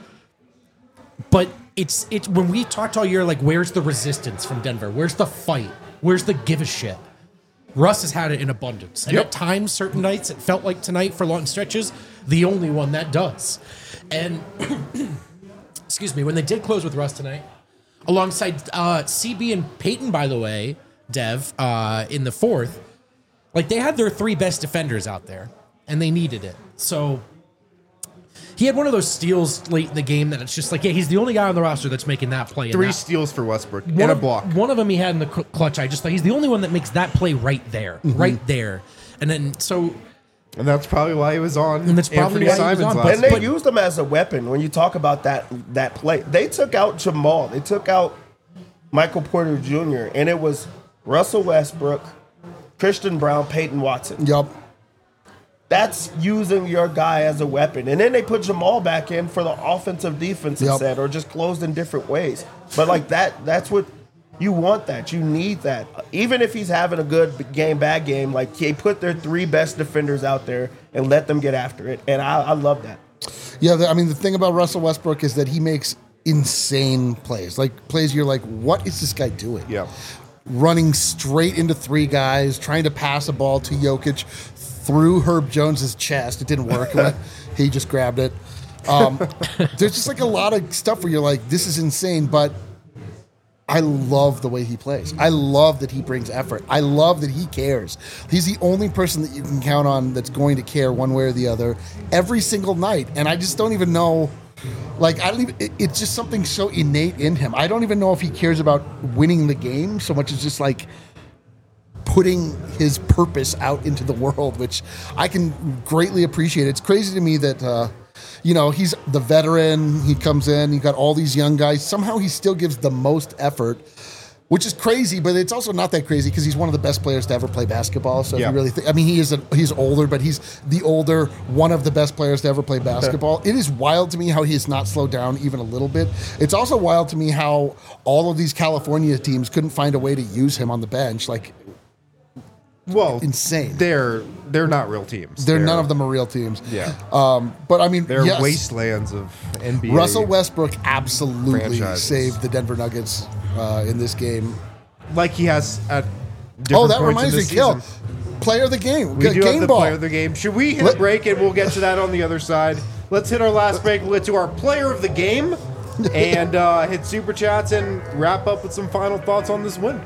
But it's it's when we talked all year, like, where's the resistance from Denver? Where's the fight? Where's the give a shit? Russ has had it in abundance. And Yep. at times, certain nights, it felt like tonight for long stretches, the only one that does. And, excuse me, when they did close with Russ tonight, alongside uh, C B and Peyton, by the way, Dev, uh, in the fourth, like, they had their three best defenders out there, and they needed it. So he had one of those steals late in the game that it's just like, yeah, he's the only guy on the roster that's making that play. and Three that- steals for Westbrook one and a of, block. One of them he had in the cl- clutch. I just thought he's the only one that makes that play right there, Mm-hmm. right there. And then so And that's probably why he was on And that's probably Anthony why he was Simons on, last but- And they but- used him as a weapon when you talk about that that play. They took out Jamal. They took out Michael Porter Junior And it was Russell Westbrook, Christian Brown, Peyton Watson. Yup. That's using your guy as a weapon. And then they put Jamal back in for the offensive defense Yep. instead, or just closed in different ways. But like that, that's what you want. That you need that. Even if he's having a good game, bad game, like they put their three best defenders out there and let them get after it. And I, I love that. Yeah, the, I mean, the thing about Russell Westbrook is that he makes insane plays, like plays you're like, what is this guy doing? Yeah. Running straight into three guys, trying to pass a ball to Jokic through Herb Jones's chest. It didn't work. He just grabbed it. Um, there's just like a lot of stuff where you're like, this is insane, but I love the way he plays. I love that he brings effort. I love that he cares. He's the only person that you can count on that's going to care one way or the other every single night. And I just don't even know, like, I don't even, it, it's just something so innate in him. I don't even know if he cares about winning the game so much as just like putting his purpose out into the world, which I can greatly appreciate. It's crazy to me that, uh, you know, he's the veteran. He comes in. You got all these young guys. Somehow he still gives the most effort, which is crazy. But it's also not that crazy because he's one of the best players to ever play basketball. So Yeah. if you really think, I mean, he is a, he's older, but he's the older one of the best players to ever play basketball. It is wild to me how he has not slowed down even a little bit. It's also wild to me how all of these California teams couldn't find a way to use him on the bench. Like, Well, insane. They're they're not real teams. they're none of them are real teams. Yeah. Um, but I mean, They're yes. wastelands of N B A. Russell Westbrook absolutely franchises. saved the Denver Nuggets uh, in this game. like he has at different Oh, that points reminds in me, this Kill. season. Player of the game. We G- do game have the ball. player of the game. Should we hit Let- a break and we'll get to that on the other side? Let's hit our last break. We'll get to our player of the game and uh, hit super chats and wrap up with some final thoughts on this win.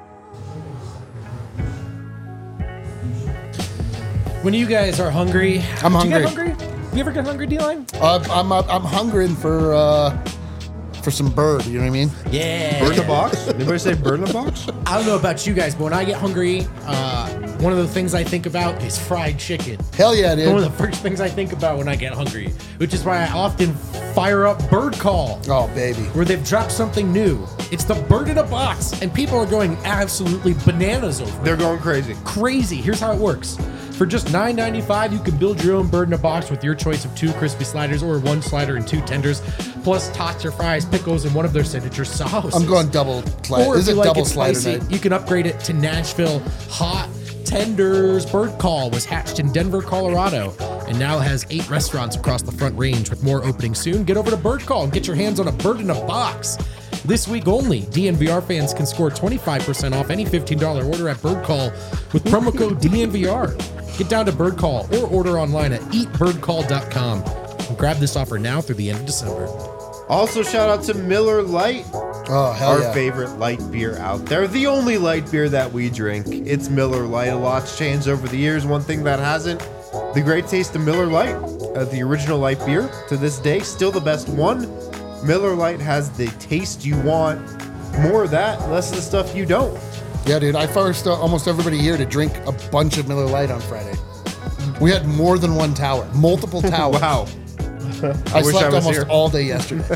When you guys are hungry, I'm do you get hungry. hungry? You ever get hungry, D-Line? Uh, I'm uh, I'm hungering for uh, for some bird. You know what I mean? Yeah. Bird in the box? Anybody say bird in the box? I don't know about you guys, but when I get hungry, uh, one of the things I think about is fried chicken. Hell yeah, One of dude. the first things I think about when I get hungry, which is why I often fire up Bird Call, Oh baby. where they've dropped something new. It's the bird in a box, and people are going absolutely bananas over it. They're going crazy. Crazy. Here's how it works. For just nine ninety-five, you can build your own bird in a box with your choice of two crispy sliders or one slider and two tenders, plus tots or fries, pickles, and one of their signature sauces. I'm going double slider. Or This if is you a like double it slider spicy, night. you can upgrade it to Nashville Hot Tenders. Bird Call was hatched in Denver, Colorado, and now has eight restaurants across the Front Range with more opening soon. Get over to Bird Call and get your hands on a bird in a box. This week only, D N V R fans can score twenty-five percent off any fifteen dollars order at Bird Call with promo code D N V R. Get down to Bird Call or order online at eat bird call dot com. And grab this offer now through the end of December. Also, shout out to Miller Lite, Oh hell our yeah. favorite light beer out there. The only light beer that we drink. It's Miller Lite. A lot's changed over the years. One thing that hasn't, the great taste of Miller Lite. Uh, the original light beer, to this day, still the best one. Miller Lite has the taste you want. More of that, less of the stuff you don't. Yeah, dude. I forced uh, almost everybody here to drink a bunch of Miller Lite on Friday. We had more than one tower, multiple towers. Wow. I, wish slept I was almost here. all day yesterday.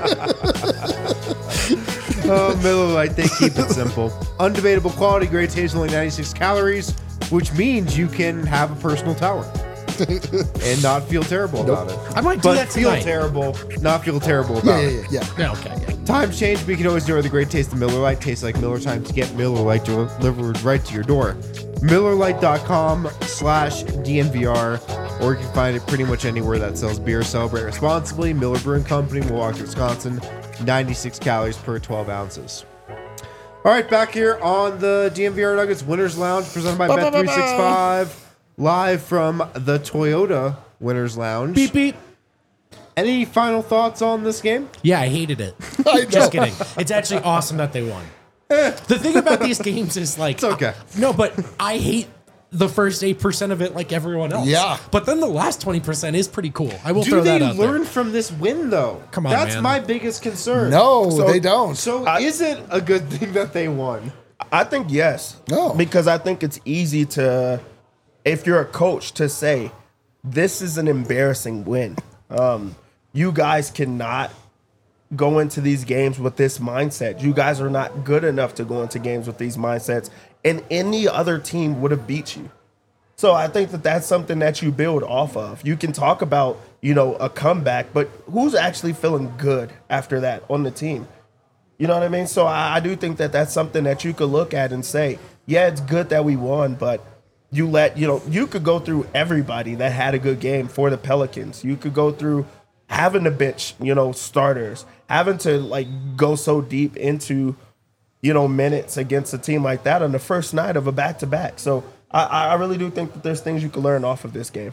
Oh, Miller Lite, they keep it simple. Undebatable quality, great taste, only ninety-six calories, which means you can have a personal tower and not feel terrible about it. I might do But that feel tonight. terrible, not feel terrible yeah, about yeah, it. yeah, yeah. Yeah, okay, yeah. Times change, but you can always enjoy the great taste of Miller Lite. Tastes like Miller Time to get Miller Lite delivered right to your door. Miller Lite dot com slash D N V R, or you can find it pretty much anywhere that sells beer. Celebrate responsibly. Miller Brewing Company, Milwaukee, Wisconsin. ninety-six calories per twelve ounces. All right, back here on the D N V R Nuggets Winners Lounge, presented by Bet three sixty-five, live from the Toyota Winners Lounge. Beep, beep. Any final thoughts on this game? Yeah, I hated it. I Just know. kidding. It's actually awesome that they won. The thing about these games is like, It's okay. No, but I hate the first eight percent of it like everyone else. Yeah. But then the last twenty percent is pretty cool. I will Do throw they that out learn there. from this win, though? Come on, That's man. my biggest concern. No, So- they don't. So I- is it a good thing that they won? I think yes. No. Because I think it's easy to, if you're a coach, to say, this is an embarrassing win. Um, you guys cannot go into these games with this mindset. You guys are not good enough to go into games with these mindsets, and any other team would have beat you. So I think that that's something that you build off of. You can talk about, you know, a comeback, but who's actually feeling good after that on the team? You know what I mean? So I, I do think that that's something that you could look at and say, yeah, it's good that we won, but you let, you know, you could go through everybody that had a good game for the Pelicans. You could go through having to bench, you know, starters, having to like go so deep into, you know, minutes against a team like that on the first night of a back-to-back. So I, I really do think that there's things you can learn off of this game.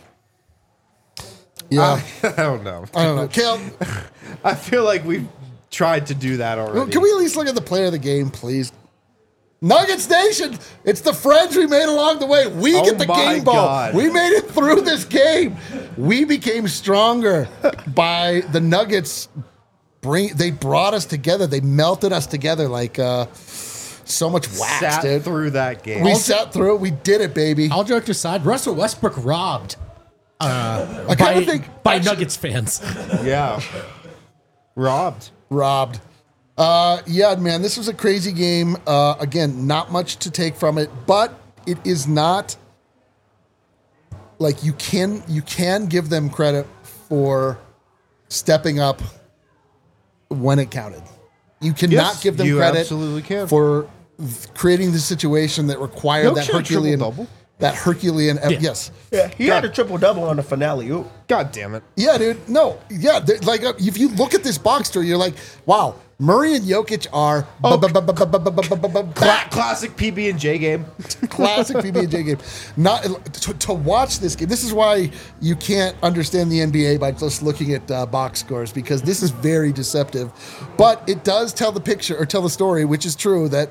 Yeah. I don't know. I don't know. Kale, I feel like we've tried to do that already. can we at least look at the player of the game, please? Nuggets Nation, it's the friends we made along the way. We Oh get the my game ball. God. We made it through this game. We became stronger by the Nuggets. Bring they brought us together. They melted us together like uh, so much wax, Sat dude. through that game. We sat through it. We did it, baby. All jokes aside, Russell Westbrook robbed uh, I by, kind of think by actually- Nuggets fans. yeah. Robbed. robbed. Uh, yeah, man, this was a crazy game. Uh, again, not much to take from it, but it is not like you can you can give them credit for stepping up when it counted. You cannot Yes, give them you credit absolutely can. for th- creating the situation that required No that shit, Herculean triple-double. that Herculean yes. Yeah, he had a triple-double on the finale. Ooh. God damn it. Yeah, dude. No, yeah. th- Like uh, if you look at this box score, you're like, wow, Murray and Jokic are Oh, bu- bu- bu- bu- bu- bu- bu- bu- bu- bu- Cla- back. classic P B and J game. Classic P B and J game. Not to, to watch this game. This is why you can't understand the N B A by just looking at uh, box scores, because this is very deceptive. But it does tell the picture or tell the story, which is true, that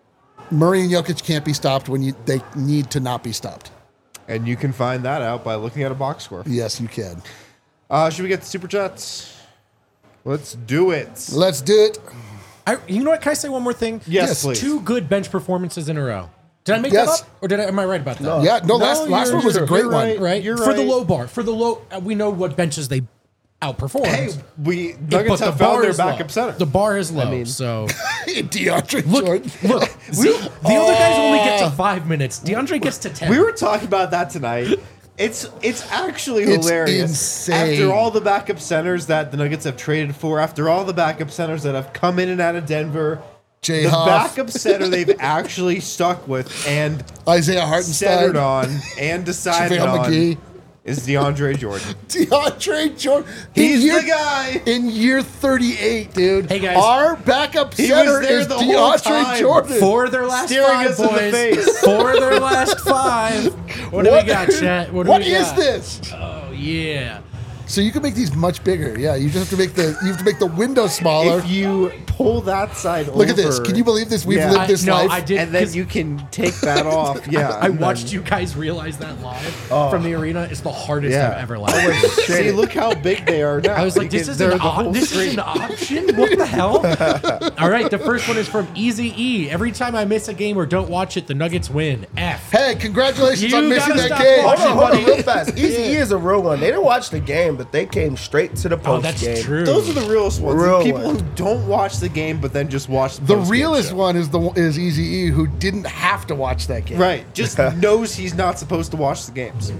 Murray and Jokic can't be stopped when you they need to not be stopped. And you can find that out by looking at a box score. Yes, you can. Uh, should we get the super chats? Let's do it. Let's do it. I, you know what? Can I say one more thing? Yes, Yes, please. Two good bench performances in a row. Did I make Yes. that up, or did I? Am I right about that? No. Yeah, no, last last you're- one was a you're great right. one. Right. You're For the right. low bar, for the low, uh, we know what benches they outperformed. Hey, we But Nuggets the have bar found their is low. backup center. The bar is low. mean- so DeAndre look, Jordan. look. See, the other guys only get to five minutes. DeAndre gets to ten. We were talking about that tonight. It's it's actually It's hilarious. insane. After all the backup centers that the Nuggets have traded for, after all the backup centers that have come in and out of Denver, Jay the Huff. backup center they've actually stuck with and Isaiah Hartenstein. centered on and decided JaVale on McGee. is DeAndre Jordan. DeAndre Jordan. In He's year- the guy. In year thirty-eight, dude. Hey, guys. Our backup He center was there is the whole DeAndre time. Jordan. For their last Staring five, us in the boys. face. For their last five. What do we got, chat? What do What we is got? this? Oh yeah. So you can make these much bigger. Yeah, you just have to make the you have to make the window smaller. If you pull that side over, Look at this. Can you believe this? We've Yeah. lived I, this no, life. I did. and then 'cause you can take that off. Yeah, I and then- watched you guys realize that live from the arena. It's the hardest Yeah. I've ever laughed. See, look how big they are now. I was like, You this can- is they're an the op- whole this screen. is an option. What the hell? All right, the first one is from Easy E. Every time I miss a game or don't watch it, the Nuggets win. F. Hey, congratulations You on missing gotta that stop game. Hold watching. on, hold on, buddy. real fast. Easy E is a real one. They didn't watch the game, but they came straight to the Oh, post that's game. true. Those are the realest ones. Real People ones. who don't watch the game but then just watch the, The post-game realest show. one is the is Easy E, who didn't have to watch that game. Right, just knows he's not supposed to watch the games.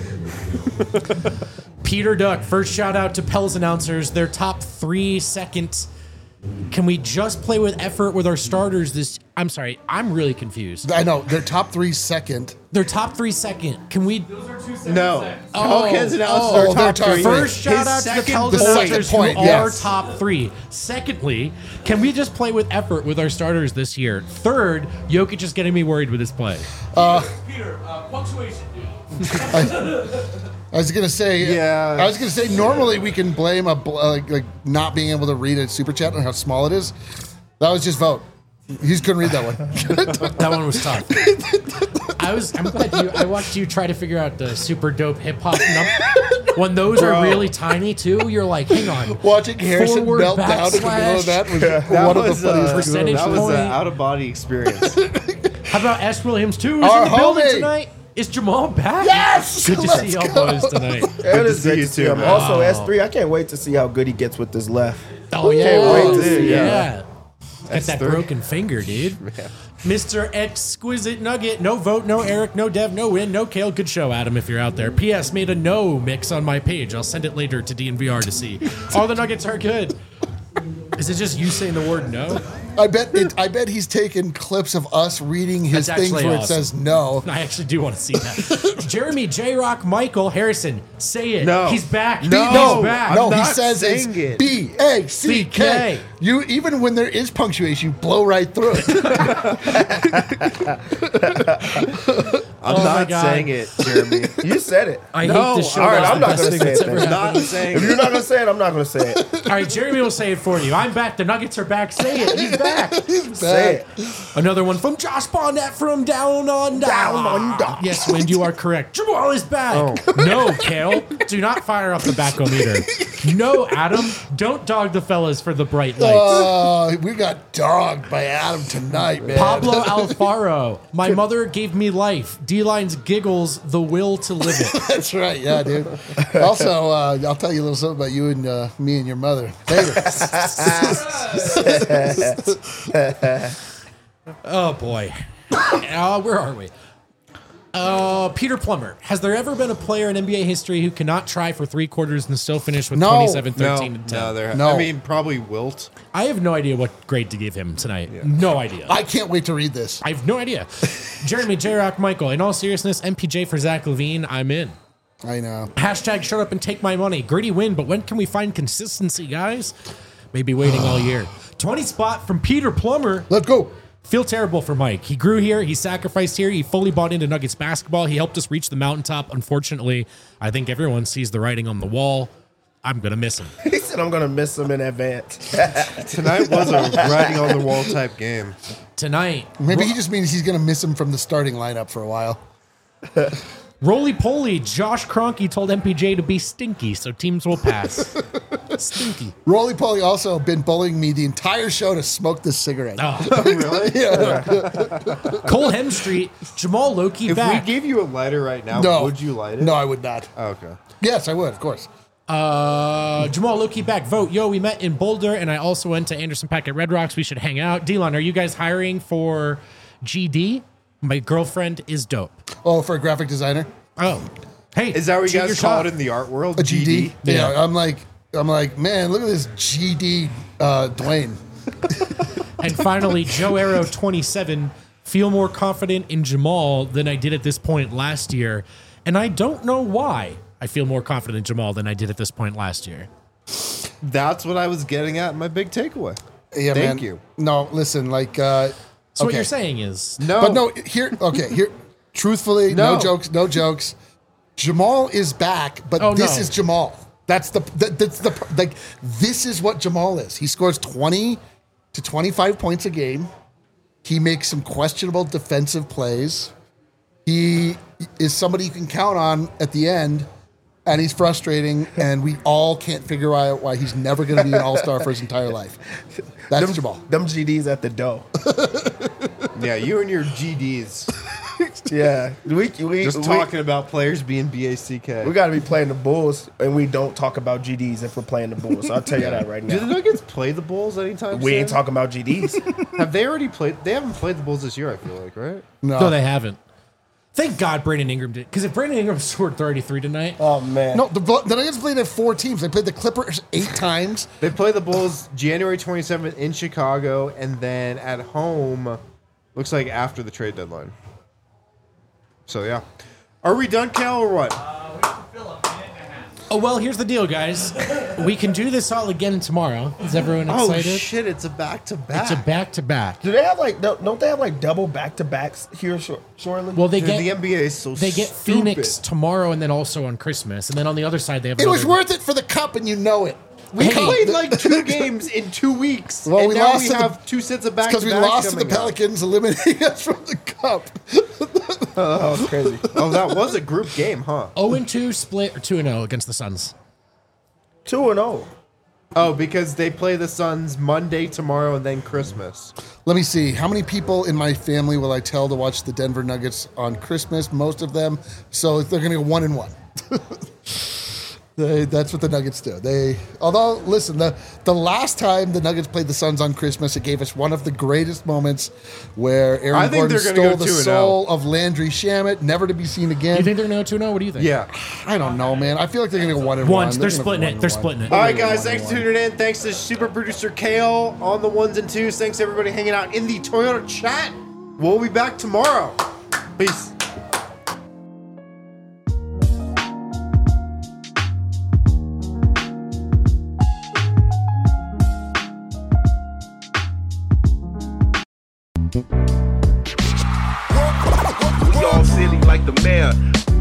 Peter Duck, first shout out to Pels announcers. Their top three seconds. Can we just play with effort with our starters this? I'm sorry, I'm really confused. I know their top three second. Their top three second. Can we? No, Oh, Hawkins announced oh, their their top top three. First shout His out to the second Pels the point. second announcers point, who yes. are top three. Secondly, can we just play with effort with our starters this year? Third, Jokic is getting me worried with his play. Peter, uh, punctuation, dude. I was gonna say, Yeah. I was gonna say. Normally, we can blame a bl- uh, like, like not being able to read a super chat and how small it is. That was just vote. He just couldn't read that one. That one was tough. I was. I'm glad you. I watched you try to figure out the super dope hip hop. Num- when those Bro. are really tiny too, you're like, hang on. Watching Harrison Forward melt down in the middle of that was That one of was, the funniest uh, things. percentage that was point. an out of body experience. How about S. Williams too? Is Our in the building homie. tonight. Is Jamal back? Yes! Good to Let's see y'all go. boys tonight. It to is see great you to see too, him. man. Also, S three, I can't wait to see how good he gets with this left. Oh yeah, wait to oh, see, yeah. yeah. Got that broken finger, dude. Mister Exquisite Nugget. No vote, no Eric, no Dev, no win, no Kale. Good show, Adam, if you're out there. P S. Made a no mix on my page. I'll send it later to D N V R to see. All the Nuggets are good. Is it just you saying the word no? I bet it, I bet he's taken clips of us reading his That's things actually where it awesome. says no. I actually do want to see that. Jeremy, J-Rock, Michael, Harrison, say it. No. He's back. No. He's No, back. no, I'm he not says it's saying it. B A C K. You even when there is punctuation, you blow right through it. I'm Oh my not God. saying it, Jeremy. You said it. I No, hate this show. all right, That's I'm the not best gonna thing say that's it ever then. happened. not saying If you're it. not gonna say it, I'm not gonna say it. All right, Jeremy will say it for you. I'm back. The Nuggets are back. Say it. He's back. Say it. Another one from Josh Barnett from Down Under. Down Under. Yes, Wind, you are correct. Jamal is back. Oh. No, Kale. Do not fire up the back-o-meter. No, Adam. Don't dog the fellas for the bright lights. Oh, we got dogged by Adam tonight, man. Pablo Alfaro. My mother gave me life. D-Line's giggles, the will to live it. That's right, yeah, dude. Also, uh, I'll tell you a little something about you and uh, me and your mother later. Oh, boy. Uh, where are we? Uh, Peter Plummer. Has there ever been a player in N B A history who cannot try for three quarters and still finish with No. twenty-seven, No, thirteen, and ten? no, there. No. I mean, probably Wilt. I have no idea what grade to give him tonight. No idea. I can't wait to read this. I have no idea. Jeremy, J-Rock, Michael. In all seriousness, M P J for Zach LaVine, I'm in. I know. Hashtag shut up and take my money. Gritty win, but when can we find consistency, guys? Maybe waiting all year. twenty spot from Peter Plummer. Let's go. Feel terrible for Mike. He grew here. He sacrificed here. He fully bought into Nuggets basketball. He helped us reach the mountaintop. Unfortunately, I think everyone sees the writing on the wall. I'm going to miss him. He said I'm gonna miss him in advance. Tonight was a writing on the wall type game. Tonight, Maybe he just means he's going to miss him from the starting lineup for a while. roly-poly, Josh Kroenke told M P J to be stinky, so teams will pass. Stinky. Roly Poly also been bullying me the entire show to smoke this cigarette. Oh. Really? Cole Hemstreet, Jamal Loki If back. we gave you a lighter right now, No. would you light it? No, I would not. Oh, okay. Yes, I would, of course. Uh, Jamal Loki back. Vote. Yo, we met in Boulder, and I also went to Anderson Pack at Red Rocks. We should hang out. Delon, are you guys hiring for G D? My girlfriend is dope. Oh, for a graphic designer? Oh, hey, Is that what you shoot your guys call shot. it in the art world? A G D? Yeah. Yeah. I'm like, I'm like, man, look at this G D uh, Dwayne. And finally, Joe Arrow twenty-seven. Feel more confident in Jamal than I did at this point last year, and I don't know why. I feel more confident in Jamal than I did at this point last year. That's what I was getting at in my big takeaway. Yeah, Thank man. you. No, listen, like, uh, So what okay. you're saying is, No. But no, here, okay, here, truthfully, no, No. jokes, no jokes. Jamal is back, but Oh, this no. is Jamal. That's the, that, that's the, like, this is what Jamal is. He scores twenty to twenty-five points a game. He makes some questionable defensive plays. He is somebody you can count on at the end, and he's frustrating, and we all can't figure out why he's never going to be an all-star for his entire life. That's them, Jamal. them G Ds at the dough. Yeah, you and your G Ds. Yeah, we we Just we, talking about players being B A C K. We got to be playing the Bulls, and we don't talk about G Ds if we're playing the Bulls. I'll tell you that right Do the now. Nuggets play the Bulls anytime We soon? ain't talking about G Ds. Have they already played? They haven't played the Bulls this year, I feel like, right? No, no, they haven't. Thank God Brandon Ingram did, because if Brandon Ingram scored thirty-three tonight, Oh man, no, the, the Nuggets played at four teams. They played the Clippers eight times. They play the Bulls January twenty-seventh in Chicago, and then at home, looks like after the trade deadline. So, yeah. Are we done, Cal, or what? oh well. Here's the deal, guys. We can do this all again tomorrow. Is everyone Oh, excited? shit, it's a back-to-back. It's a back-to-back. do they have like don't don't they have like double back to backs here, Shor- Shoreland? Well, they Dude, get the N B A is so they get stupid. Phoenix tomorrow, and then also on Christmas, and then on the other side they have. It was another- worth it for the cup, and you know it. We Hey. played like two games in two weeks, Well, and we now lost we to the- have two sets of Because back-to-backs we lost to the coming up. Pelicans, eliminating us from the cup. that was crazy. Oh, that was a group game, huh? oh and two split or two and oh against the Suns. Two and zero. Oh, because they play the Suns Monday, tomorrow, and then Christmas. Let me see. How many people in my family will I tell to watch the Denver Nuggets on Christmas? Most of them. So they're going to go one and one. They, that's what the Nuggets do. They, although, listen, the the last time the Nuggets played the Suns on Christmas, it gave us one of the greatest moments where I Aaron think Gordon they're gonna stole go the two and soul of Landry Shamet, never to be seen again. You think they're going to go two and oh? What do you think? Yeah. I don't know, man. I feel like they're going to go one and one. Once. They're gonna go splitting one it. and They're one. splitting it. All right, They're gonna guys. go one Thanks and for one. tuning in. Thanks to super producer Kale on the ones and twos. Thanks to everybody hanging out in the Toyota chat. We'll be back tomorrow. Peace. We all silly like the mayor.